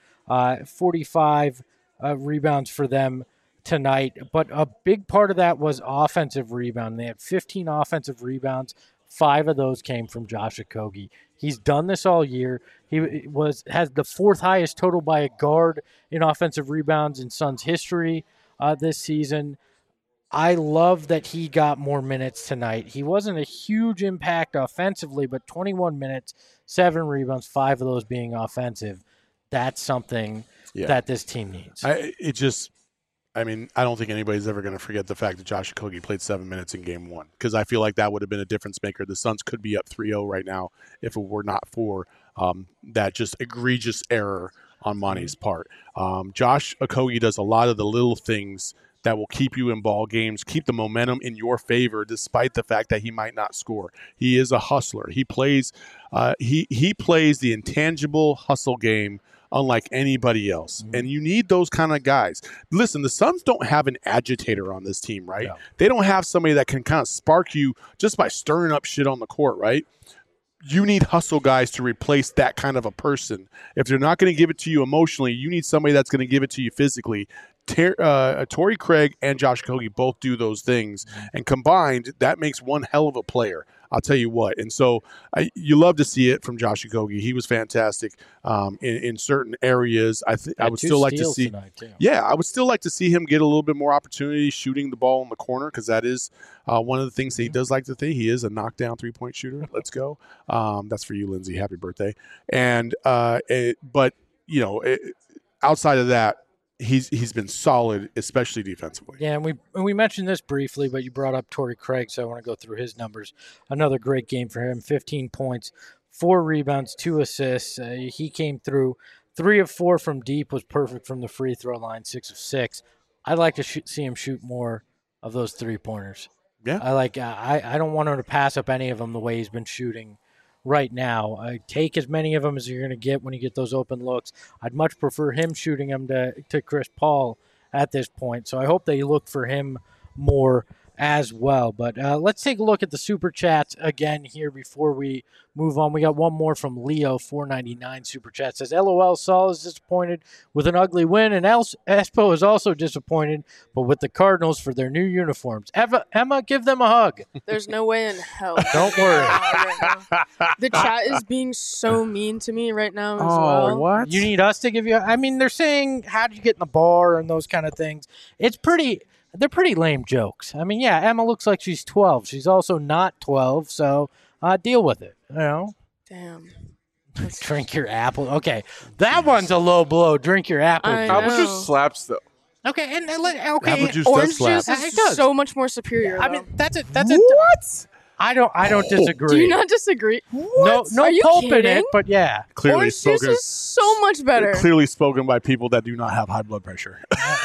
45 rebounds for them tonight. But a big part of that was offensive rebound. They had 15 offensive rebounds. 5 of those came from Josh Okogie. He's done this all year. He has the 4th highest total by a guard in offensive rebounds in Suns history this season. I love that he got more minutes tonight. He wasn't a huge impact offensively, but 21 minutes, 7 rebounds, 5 of those being offensive. That's something that this team needs. I don't think anybody's ever going to forget the fact that Josh Okogie played 7 minutes in game 1, because I feel like that would have been a difference maker. The Suns could be up 3-0 right now if it were not for that just egregious error on Monty's part. Josh Okogie does a lot of the little things that will keep you in ball games, keep the momentum in your favor, despite the fact that he might not score. He is a hustler. He plays he plays the intangible hustle game unlike anybody else. And you need those kind of guys. Listen, the Suns don't have an agitator on this team, right? No. They don't have somebody that can kind of spark you just by stirring up shit on the court, right? You need hustle guys to replace that kind of a person. If they're not going to give it to you emotionally, you need somebody that's going to give it to you physically. Torrey Craig and Josh Okogie both do those things, and combined, that makes one hell of a player. I'll tell you what. And so you love to see it from Josh Okogie. He was fantastic in certain areas. I would still like to see. I would still like to see him get a little bit more opportunity shooting the ball in the corner, because that is one of the things that he does like to think. He is a knockdown 3-point shooter. Let's go. That's for you, Lindsay. Happy birthday. And outside of that, he's been solid, especially defensively. Yeah, and we mentioned this briefly, but you brought up Torrey Craig, so I want to go through his numbers. Another great game for him, 15 points, 4 rebounds, 2 assists. He came through 3 of 4 from deep, was perfect from the free throw line, 6 of 6. I'd like to see him shoot more of those 3-pointers. Yeah. I don't want him to pass up any of them the way he's been shooting right now. Take as many of them as you're going to get when you get those open looks. I'd much prefer him shooting them to Chris Paul at this point. So I hope they look for him more as well. But let's take a look at the Super Chats again here before we move on. We got one more from Leo, $4.99 Super Chat. Says, LOL, Saul is disappointed with an ugly win, and Espo is also disappointed, but with the Cardinals for their new uniforms. Emma, give them a hug. There's no way in hell. Don't worry. The chat is being so mean to me right now as well. What? You need us to give you... they're saying, how did you get in the bar and those kind of things. They're pretty lame jokes. Emma looks like she's 12. She's also not 12, so deal with it, Damn. Drink your apple. Okay, that one's a low blow. Drink your apple. Apple juice slaps, though. Okay, apple juice orange does slap. juice is so much more superior, though. That's it. What? I don't disagree. Do you not disagree? What? No pulp in it, but yeah. Clearly orange spoken. Juice is so much better. Clearly spoken by people that do not have high blood pressure.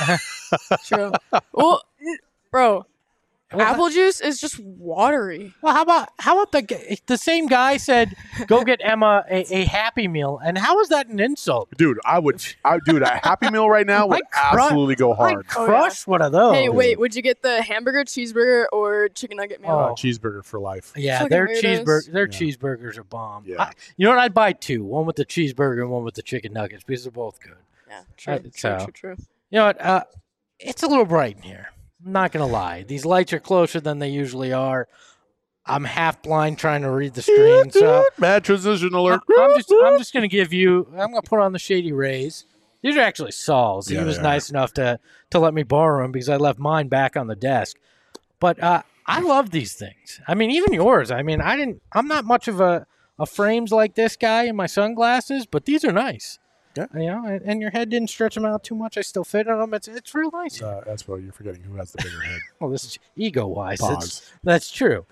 True. Well, bro, apple juice is just watery. Well, how about the same guy said, go get Emma a Happy Meal, and how is that an insult? Dude, a Happy Meal right now would absolutely go hard. I'd crush one of those. Hey, wait, would you get the hamburger, cheeseburger, or chicken nugget meal? Cheeseburger for life. Yeah, their cheeseburgers are bomb. Yeah. You know what? I'd buy 2, one with the cheeseburger and one with the chicken nuggets, because they're both good. Yeah, true. You know what? It's a little bright in here. I'm not going to lie. These lights are closer than they usually are. I'm half blind trying to read the screen. So bad transition alert. I'm just going to give you, I'm going to put on the Shady Rays. These are actually Saul's. He was nice enough to let me borrow them because I left mine back on the desk. But I love these things. Even yours. I'm not much of a frames like this guy in my sunglasses, but these are nice. Yeah. And your head didn't stretch them out too much. I still fit on them. It's real nice. That's what you're forgetting. Who has the bigger head? Well, this is ego-wise. Pause. That's true.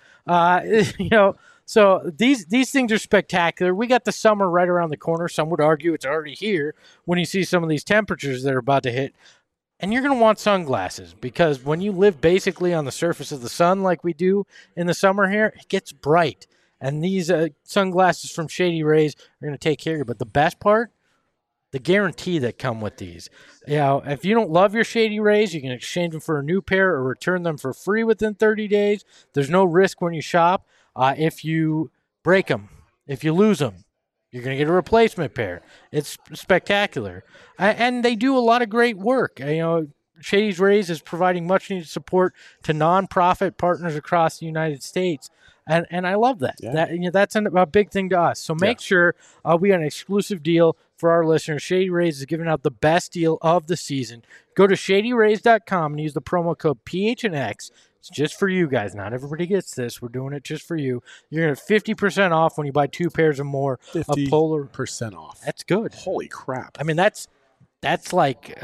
So these things are spectacular. We got the summer right around the corner. Some would argue it's already here when you see some of these temperatures that are about to hit. And you're going to want sunglasses because when you live basically on the surface of the sun like we do in the summer here, it gets bright. And these sunglasses from Shady Rays are going to take care of you. But the best part, the guarantee that come with these. If you don't love your Shady Rays, you can exchange them for a new pair or return them for free within 30 days. There's no risk when you shop. If you break them, if you lose them, you're going to get a replacement pair. It's spectacular. And they do a lot of great work. Shady's Rays is providing much-needed support to nonprofit partners across the United States. And I love that. Yeah. That's a big thing to us. So make sure we got an exclusive deal for our listeners. Shady Rays is giving out the best deal of the season. Go to shadyrays.com and use the promo code PHNX. It's just for you guys. Not everybody gets this. We're doing it just for you. You're going to have 50% off when you buy 2 pairs or more of Polar. 50% off. That's good. Holy crap. I mean, that's like,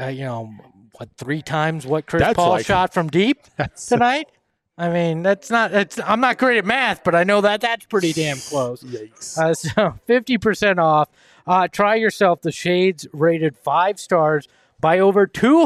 3 times what Chris Paul shot from deep tonight? I mean, I'm not great at math, but I know that's pretty damn close. Yikes. So 50% off. Try yourself the shades rated 5 stars by over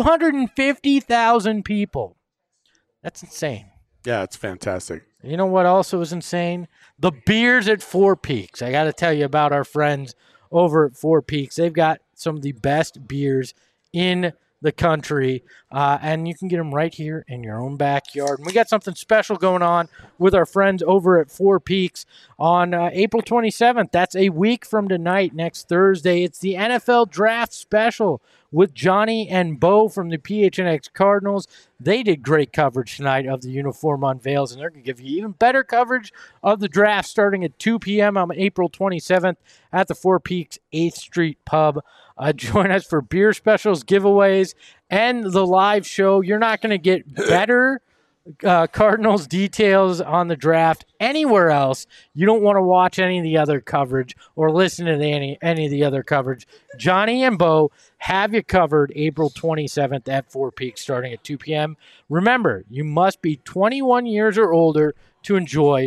250,000 people. That's insane. Yeah, it's fantastic. You know what also is insane? The beers at Four Peaks. I got to tell you about our friends over at Four Peaks. They've got some of the best beers in the country, and you can get them right here in your own backyard. And we got something special going on with our friends over at Four Peaks on April 27th. That's a week from tonight, next Thursday. It's the NFL Draft Special with Johnny and Bo from the PHNX Cardinals. They did great coverage tonight of the uniform unveils, and they're going to give you even better coverage of the draft starting at 2 p.m. on April 27th at the Four Peaks 8th Street Pub. Join us for beer specials, giveaways, and the live show. You're not going to get better Cardinals details on the draft anywhere else. You don't want to watch any of the other coverage or listen to any of the other coverage. Johnny and Bo have you covered April 27th at Four Peaks starting at 2 p.m. Remember, you must be 21 years or older to enjoy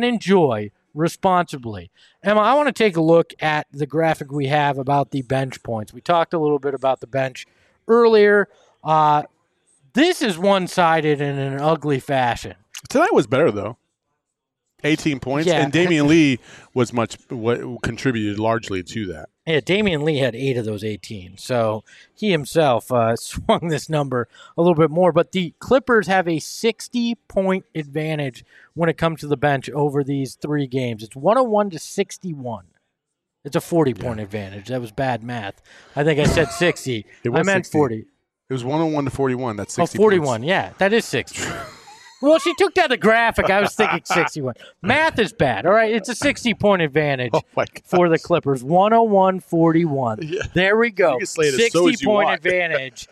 responsibly. Emma, I want to take a look at the graphic we have about the bench points. We talked a little bit about the bench earlier. This is one-sided in an ugly fashion. Tonight was better, though. 18 points, and Damian Lee was what contributed largely to that. Yeah, Damian Lee had 8 of those 18, so he himself swung this number a little bit more. But the Clippers have a 60-point advantage when it comes to the bench over these 3 games. It's 101-61. It's a 40-point advantage. That was bad math. I think I said 60. I meant 60. 40. It was 101-41. That's 60 41. points. Yeah, that is 60. Well, she took down the graphic. I was thinking 61. Math is bad. All right, it's a 60-point advantage for the Clippers. 101-41. Yeah. There we go. 60-point advantage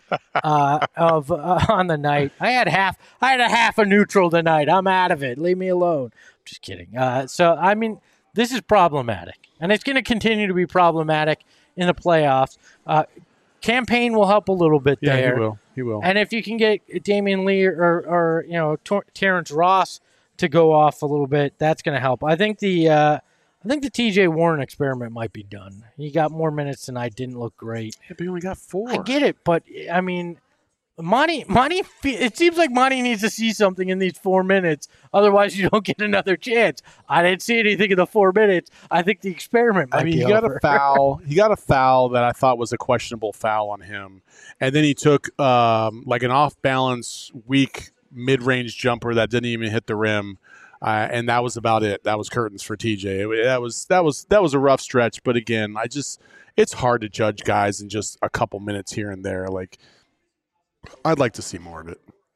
on the night. I had a half a neutral tonight. I'm out of it. Leave me alone. Just kidding. So I mean, this is problematic, and it's going to continue to be problematic in the playoffs. Campaign will help a little bit there. Yeah, he will. And if you can get Damian Lee or Terrence Ross to go off a little bit, that's going to help. I think the T.J. Warren experiment might be done. He got more minutes tonight. Didn't look great. Yeah, but he only got 4. I get it, but I mean, Monty. It seems like Monty needs to see something in these 4 minutes. Otherwise, you don't get another chance. I didn't see anything in the 4 minutes. I think the experiment might be he over. got a foul. He got a foul that I thought was a questionable foul on him, and then he took like an off-balance, weak mid-range jumper that didn't even hit the rim, and that was about it. That was curtains for TJ. That was a rough stretch, but again, it's hard to judge guys in just a couple minutes here and there. Like, I'd like to see more of it.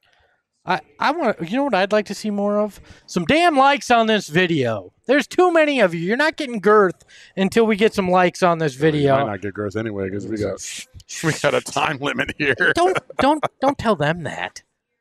I want to, you know what I'd like to see more of? Some damn likes on this video. There's too many of you. You're not getting girth until we get some likes on this video. We might not get girth anyway because we got a time limit here. Don't tell them that.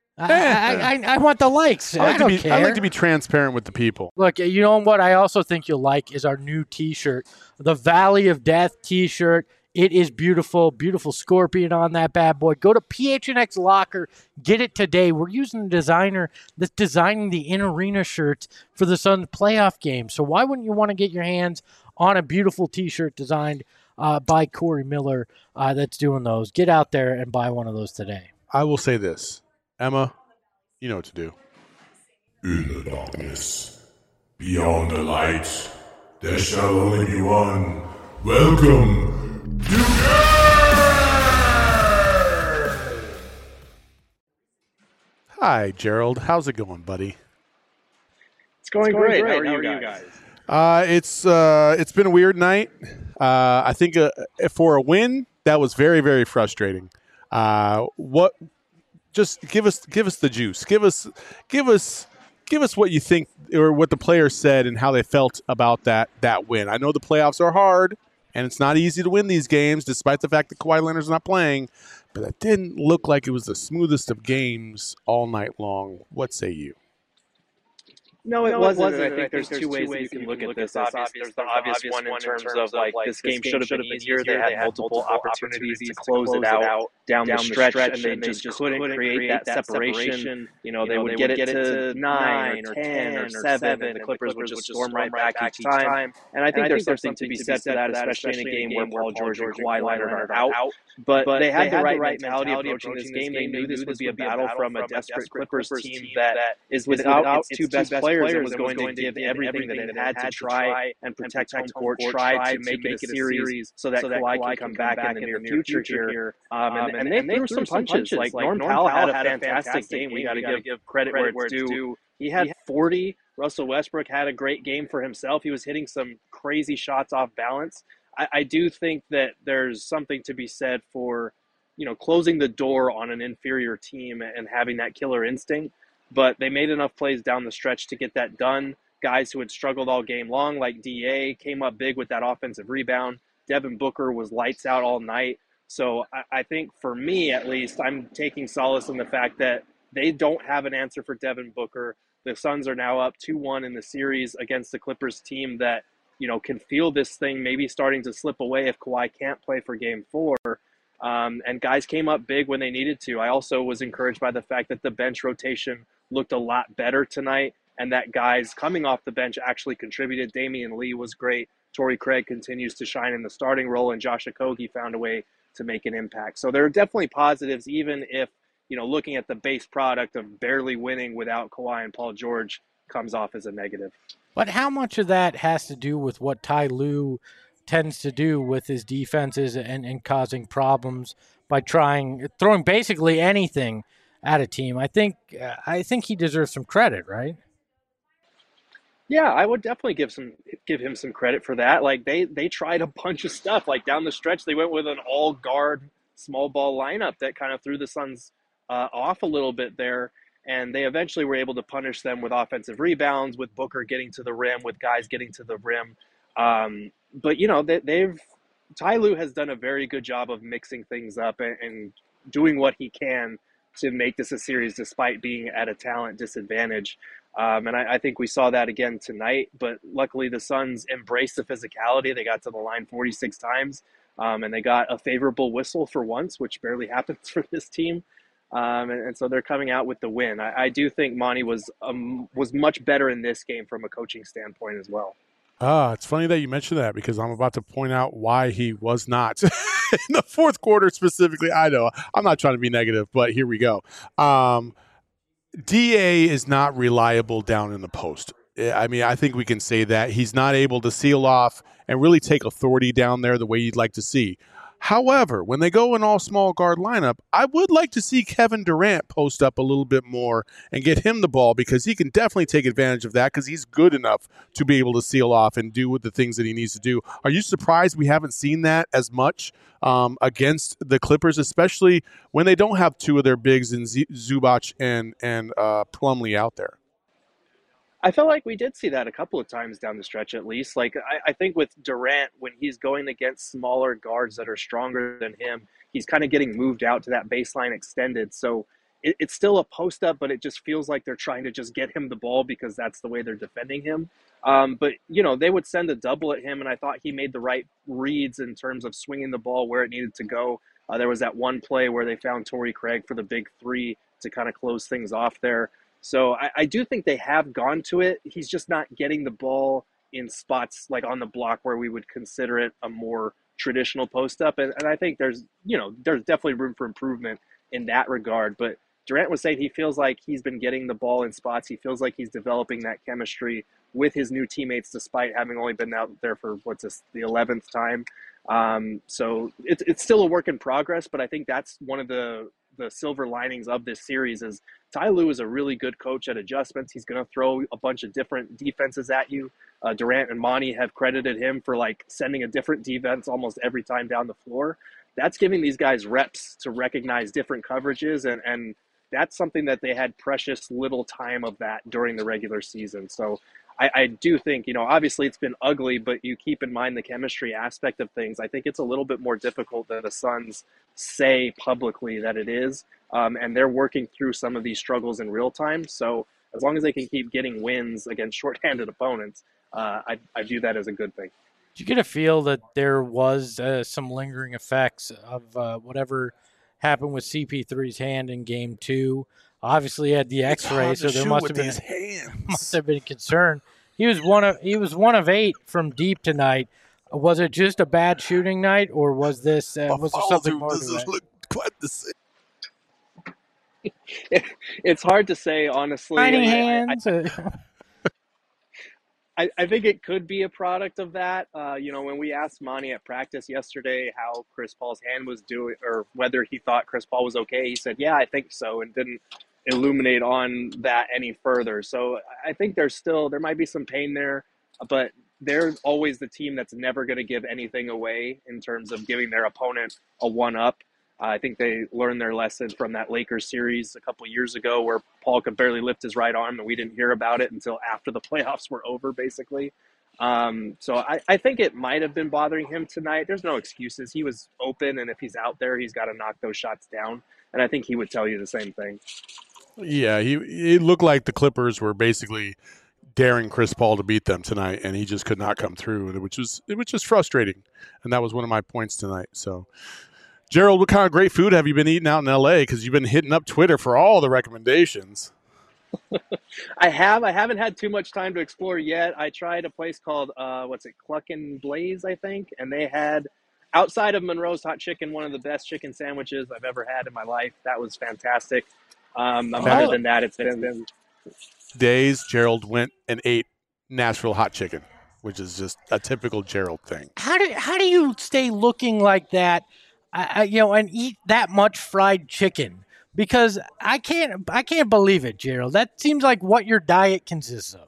I want the likes. I don't care. I like to be transparent with the people. Look, you know what I also think you'll like is our new T-shirt, the Valley of Death T-shirt. It is beautiful, beautiful scorpion on that bad boy. Go to PHNX Locker, get it today. We're using a designer that's designing the in-arena shirts for the Suns playoff game. So why wouldn't you want to get your hands on a beautiful T-shirt designed by Corey Miller that's doing those? Get out there and buy one of those today. I will say this. Emma, you know what to do. In the darkness, beyond the light, there shall only be one. Welcome to Hi, Gerald. How's it going, buddy? It's going great. How are you guys? It's been a weird night. I think for a win, that was very, very frustrating. Just give us the juice. Give us what you think or what the players said and how they felt about that win. I know the playoffs are hard and it's not easy to win these games, despite the fact that Kawhi Leonard's not playing. But that didn't look like it was the smoothest of games all night long. What say you? No, it wasn't. I think there's two ways that you can look at this. There's the obvious one in terms of like this game should have been easier. They had multiple opportunities to close it out down the stretch, and they just couldn't create that separation. You know, they would get it to 9 or 10 or 7, and the Clippers would just storm right back each time. And I think there's something to be said for that, especially in a game where Paul George and Kawhi Leonard are out. But they had the right mentality approaching this game. They knew this would be a battle from a desperate Clippers team that is without its two best players and was going to give everything that it had to try and protect home court, try to make it a series so that Kawhi can come back in the near future here. And they threw some punches. Like Norm Powell had a fantastic game. We got to give credit where it's due. He had 40. Russell Westbrook had a great game for himself. He was hitting some crazy shots off balance. I do think that there's something to be said for, closing the door on an inferior team and having that killer instinct. But they made enough plays down the stretch to get that done. Guys who had struggled all game long, like DA, came up big with that offensive rebound. Devin Booker was lights out all night. So I think for me, at least, I'm taking solace in the fact that they don't have an answer for Devin Booker. The Suns are now up 2-1 in the series against the Clippers team that, can feel this thing maybe starting to slip away if Kawhi can't play for Game 4. And guys came up big when they needed to. I also was encouraged by the fact that the bench rotation looked a lot better tonight and that guys coming off the bench actually contributed. Damian Lee was great. Torrey Craig continues to shine in the starting role, and Josh Okogie found a way to make an impact. So there are definitely positives, even if, looking at the base product of barely winning without Kawhi and Paul George comes off as a negative. But how much of that has to do with what Ty Lue tends to do with his defenses and causing problems by throwing basically anything at a team? I think he deserves some credit, right? Yeah, I would definitely give him some credit for that. Like they tried a bunch of stuff. Like down the stretch, they went with an all guard small ball lineup that kind of threw the Suns off a little bit there. And they eventually were able to punish them with offensive rebounds, with Booker getting to the rim, with guys getting to the rim. But Ty Lue has done a very good job of mixing things up and doing what he can to make this a series despite being at a talent disadvantage. And I think we saw that again tonight, but luckily the Suns embraced the physicality. They got to the line 46 times, and they got a favorable whistle for once, which barely happens for this team. And so they're coming out with the win. I do think Monty was much better in this game from a coaching standpoint as well. It's funny that you mentioned that because I'm about to point out why he was not in the fourth quarter specifically. I know I'm not trying to be negative, but here we go. DA is not reliable down in the post. I mean, I think we can say that. He's not able to seal off and really take authority down there the way you'd like to see. However, when they go an all-small guard lineup, I would like to see Kevin Durant post up a little bit more and get him the ball because he can definitely take advantage of that because he's good enough to be able to seal off and do the things that he needs to do. Are you surprised we haven't seen that as much against the Clippers, especially when they don't have two of their bigs in Zubac and Plumlee out there? I felt like we did see that a couple of times down the stretch, at least. Like, I think with Durant, when he's going against smaller guards that are stronger than him, he's kind of getting moved out to that baseline extended. So it's still a post up, but it just feels like they're trying to just get him the ball because that's the way they're defending him. But, they would send a double at him, and I thought he made the right reads in terms of swinging the ball where it needed to go. There was that one play where they found Torrey Craig for the big three to kind of close things off there. So I do think they have gone to it. He's just not getting the ball in spots like on the block where we would consider it a more traditional post up. And I think there's definitely room for improvement in that regard. But Durant was saying he feels like he's been getting the ball in spots. He feels like he's developing that chemistry with his new teammates, despite having only been out there for the 11th time. So it's still a work in progress, but I think that's one of the silver linings of this series is Ty Lue is a really good coach at adjustments. He's going to throw a bunch of different defenses at you. Durant and Monty have credited him for sending a different defense almost every time down the floor. That's giving these guys reps to recognize different coverages, and that's something that they had precious little time of that during the regular season. So I do think, obviously it's been ugly, but you keep in mind the chemistry aspect of things. I think it's a little bit more difficult than the Suns say publicly that it is. And they're working through some of these struggles in real time. So as long as they can keep getting wins against shorthanded opponents, I view that as a good thing. Did you get a feel that there was some lingering effects of whatever happened with CP3's hand in Game 2? Obviously, he had the X-ray, so there must have been concern. He was one of 8 from deep tonight. Was it just a bad shooting night, or was this was there something more to that? Look quite the same. It's hard to say, honestly. Tiny hands. I think it could be a product of that. When we asked Monty at practice yesterday how Chris Paul's hand was doing, or whether he thought Chris Paul was okay, he said, "Yeah, I think so," and didn't illuminate on that any further. So I think there might be some pain there, but they're always the team that's never going to give anything away in terms of giving their opponent a one-up. I think they learned their lesson from that Lakers series a couple years ago where Paul could barely lift his right arm and we didn't hear about it until after the playoffs were over, basically. So I think it might have been bothering him tonight. There's no excuses. He was open, and if he's out there, he's got to knock those shots down. And I think he would tell you the same thing. Yeah, it looked like the Clippers were basically daring Chris Paul to beat them tonight, and he just could not come through, which was just frustrating. And that was one of my points tonight. So, Gerald, what kind of great food have you been eating out in L.A.? Because you've been hitting up Twitter for all the recommendations. I haven't had too much time to explore yet. I tried a place called, Cluck and Blaze, I think. And they had, outside of Monroe's Hot Chicken, one of the best chicken sandwiches I've ever had in my life. That was fantastic. Other than that, it's been days. Gerald went and ate Nashville hot chicken, which is just a typical Gerald thing. How do you stay looking like that, and eat that much fried chicken? Because I can't believe it, Gerald. That seems like what your diet consists of.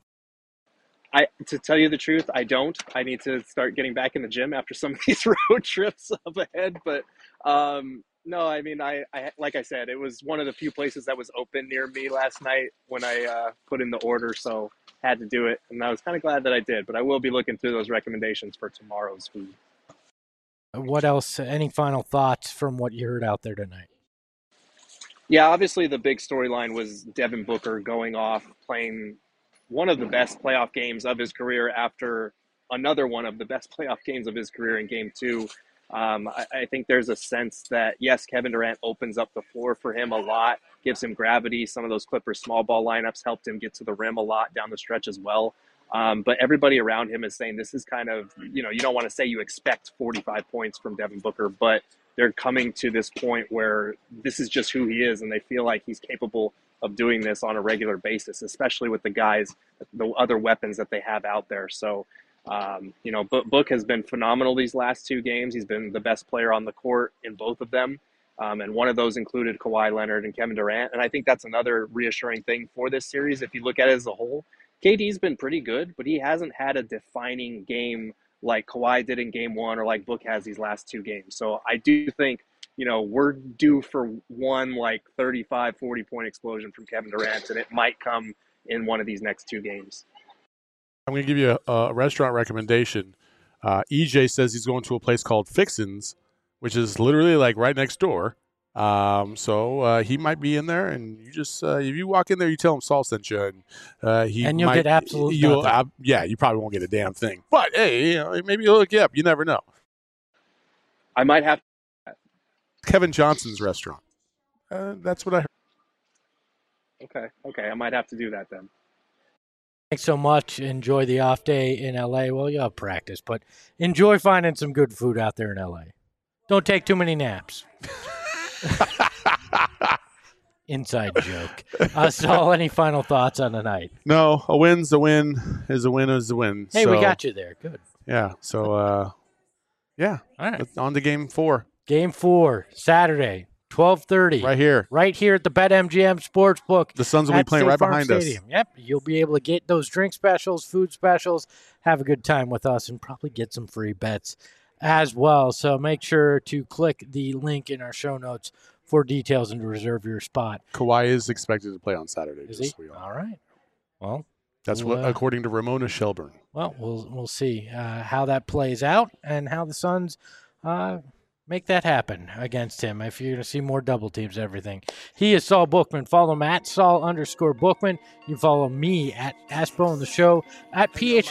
To tell you the truth, I don't. I need to start getting back in the gym after some of these road trips up ahead. But no, I mean, I like I said, it was one of the few places that was open near me last night when I put in the order, so had to do it. And I was kind of glad that I did. But I will be looking through those recommendations for tomorrow's food. What else? Any final thoughts from what you heard out there tonight? Yeah, obviously the big storyline was Devin Booker going off, playing one of the best playoff games of his career after another one of the best playoff games of his career in Game 2. I think there's a sense that, yes, Kevin Durant opens up the floor for him a lot, gives him gravity. Some of those Clippers small ball lineups helped him get to the rim a lot down the stretch as well. But everybody around him is saying this is kind of, you don't want to say you expect 45 points from Devin Booker, but they're coming to this point where this is just who he is, and they feel like he's capable of doing this on a regular basis, especially with the guys, the other weapons that they have out there. So, Book has been phenomenal these last 2 games. He's been the best player on the court in both of them. And one of those included Kawhi Leonard and Kevin Durant. And I think that's another reassuring thing for this series. If you look at it as a whole, KD's been pretty good, but he hasn't had a defining game like Kawhi did in Game 1 or like Book has these last 2 games. So I do think, we're due for one 35, 40-point explosion from Kevin Durant, and it might come in one of these next 2 games. I'm going to give you a restaurant recommendation. EJ says he's going to a place called Fixin's, which is literally right next door. So he might be in there, and you just if you walk in there, you tell him Saul sent you, and you'll get absolutely nothing. You probably won't get a damn thing. But hey, maybe he'll hook you up. You never know. I might have Kevin Johnson's restaurant. That's what I heard. Okay, I might have to do that then. Thanks so much. Enjoy the off day in LA. Well, you'll have practice, but enjoy finding some good food out there in LA. Don't take too many naps. Inside joke. Saul, any final thoughts on the night? No, a win's a win is a win is a win. Hey, we got you there. Good. Yeah. So, yeah. All right. On to Game 4. Game 4, Saturday, 12:30. Right here at the BetMGM Sportsbook. The Suns will be playing right behind us. Yep. You'll be able to get those drink specials, food specials, have a good time with us, and probably get some free bets as well. So make sure to click the link in our show notes for details and to reserve your spot. Kawhi is expected to play on Saturday. Is he? All right. Well, that's what according to Ramona Shelburne. Well, we'll see how that plays out and how the Suns make that happen against him. If you're going to see more double teams and everything. He is Saul Bookman. Follow him at Saul_Bookman. You can follow me at Aspo on the show at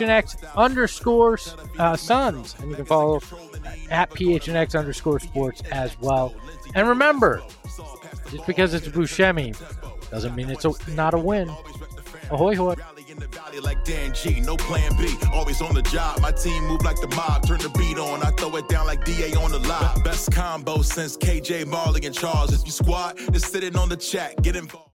PHNX_Suns. And you can follow at PHNX_Sports as well. And remember, just because it's Buscemi doesn't mean it's not a win. Ahoy, hoy. In the valley like Dan G, no plan B, always on the job. My team move like the mob, turn the beat on, I throw it down like DA on the live. Best combo since KJ, Marley, and Charles. If you squad, just sitting on the chat, get involved.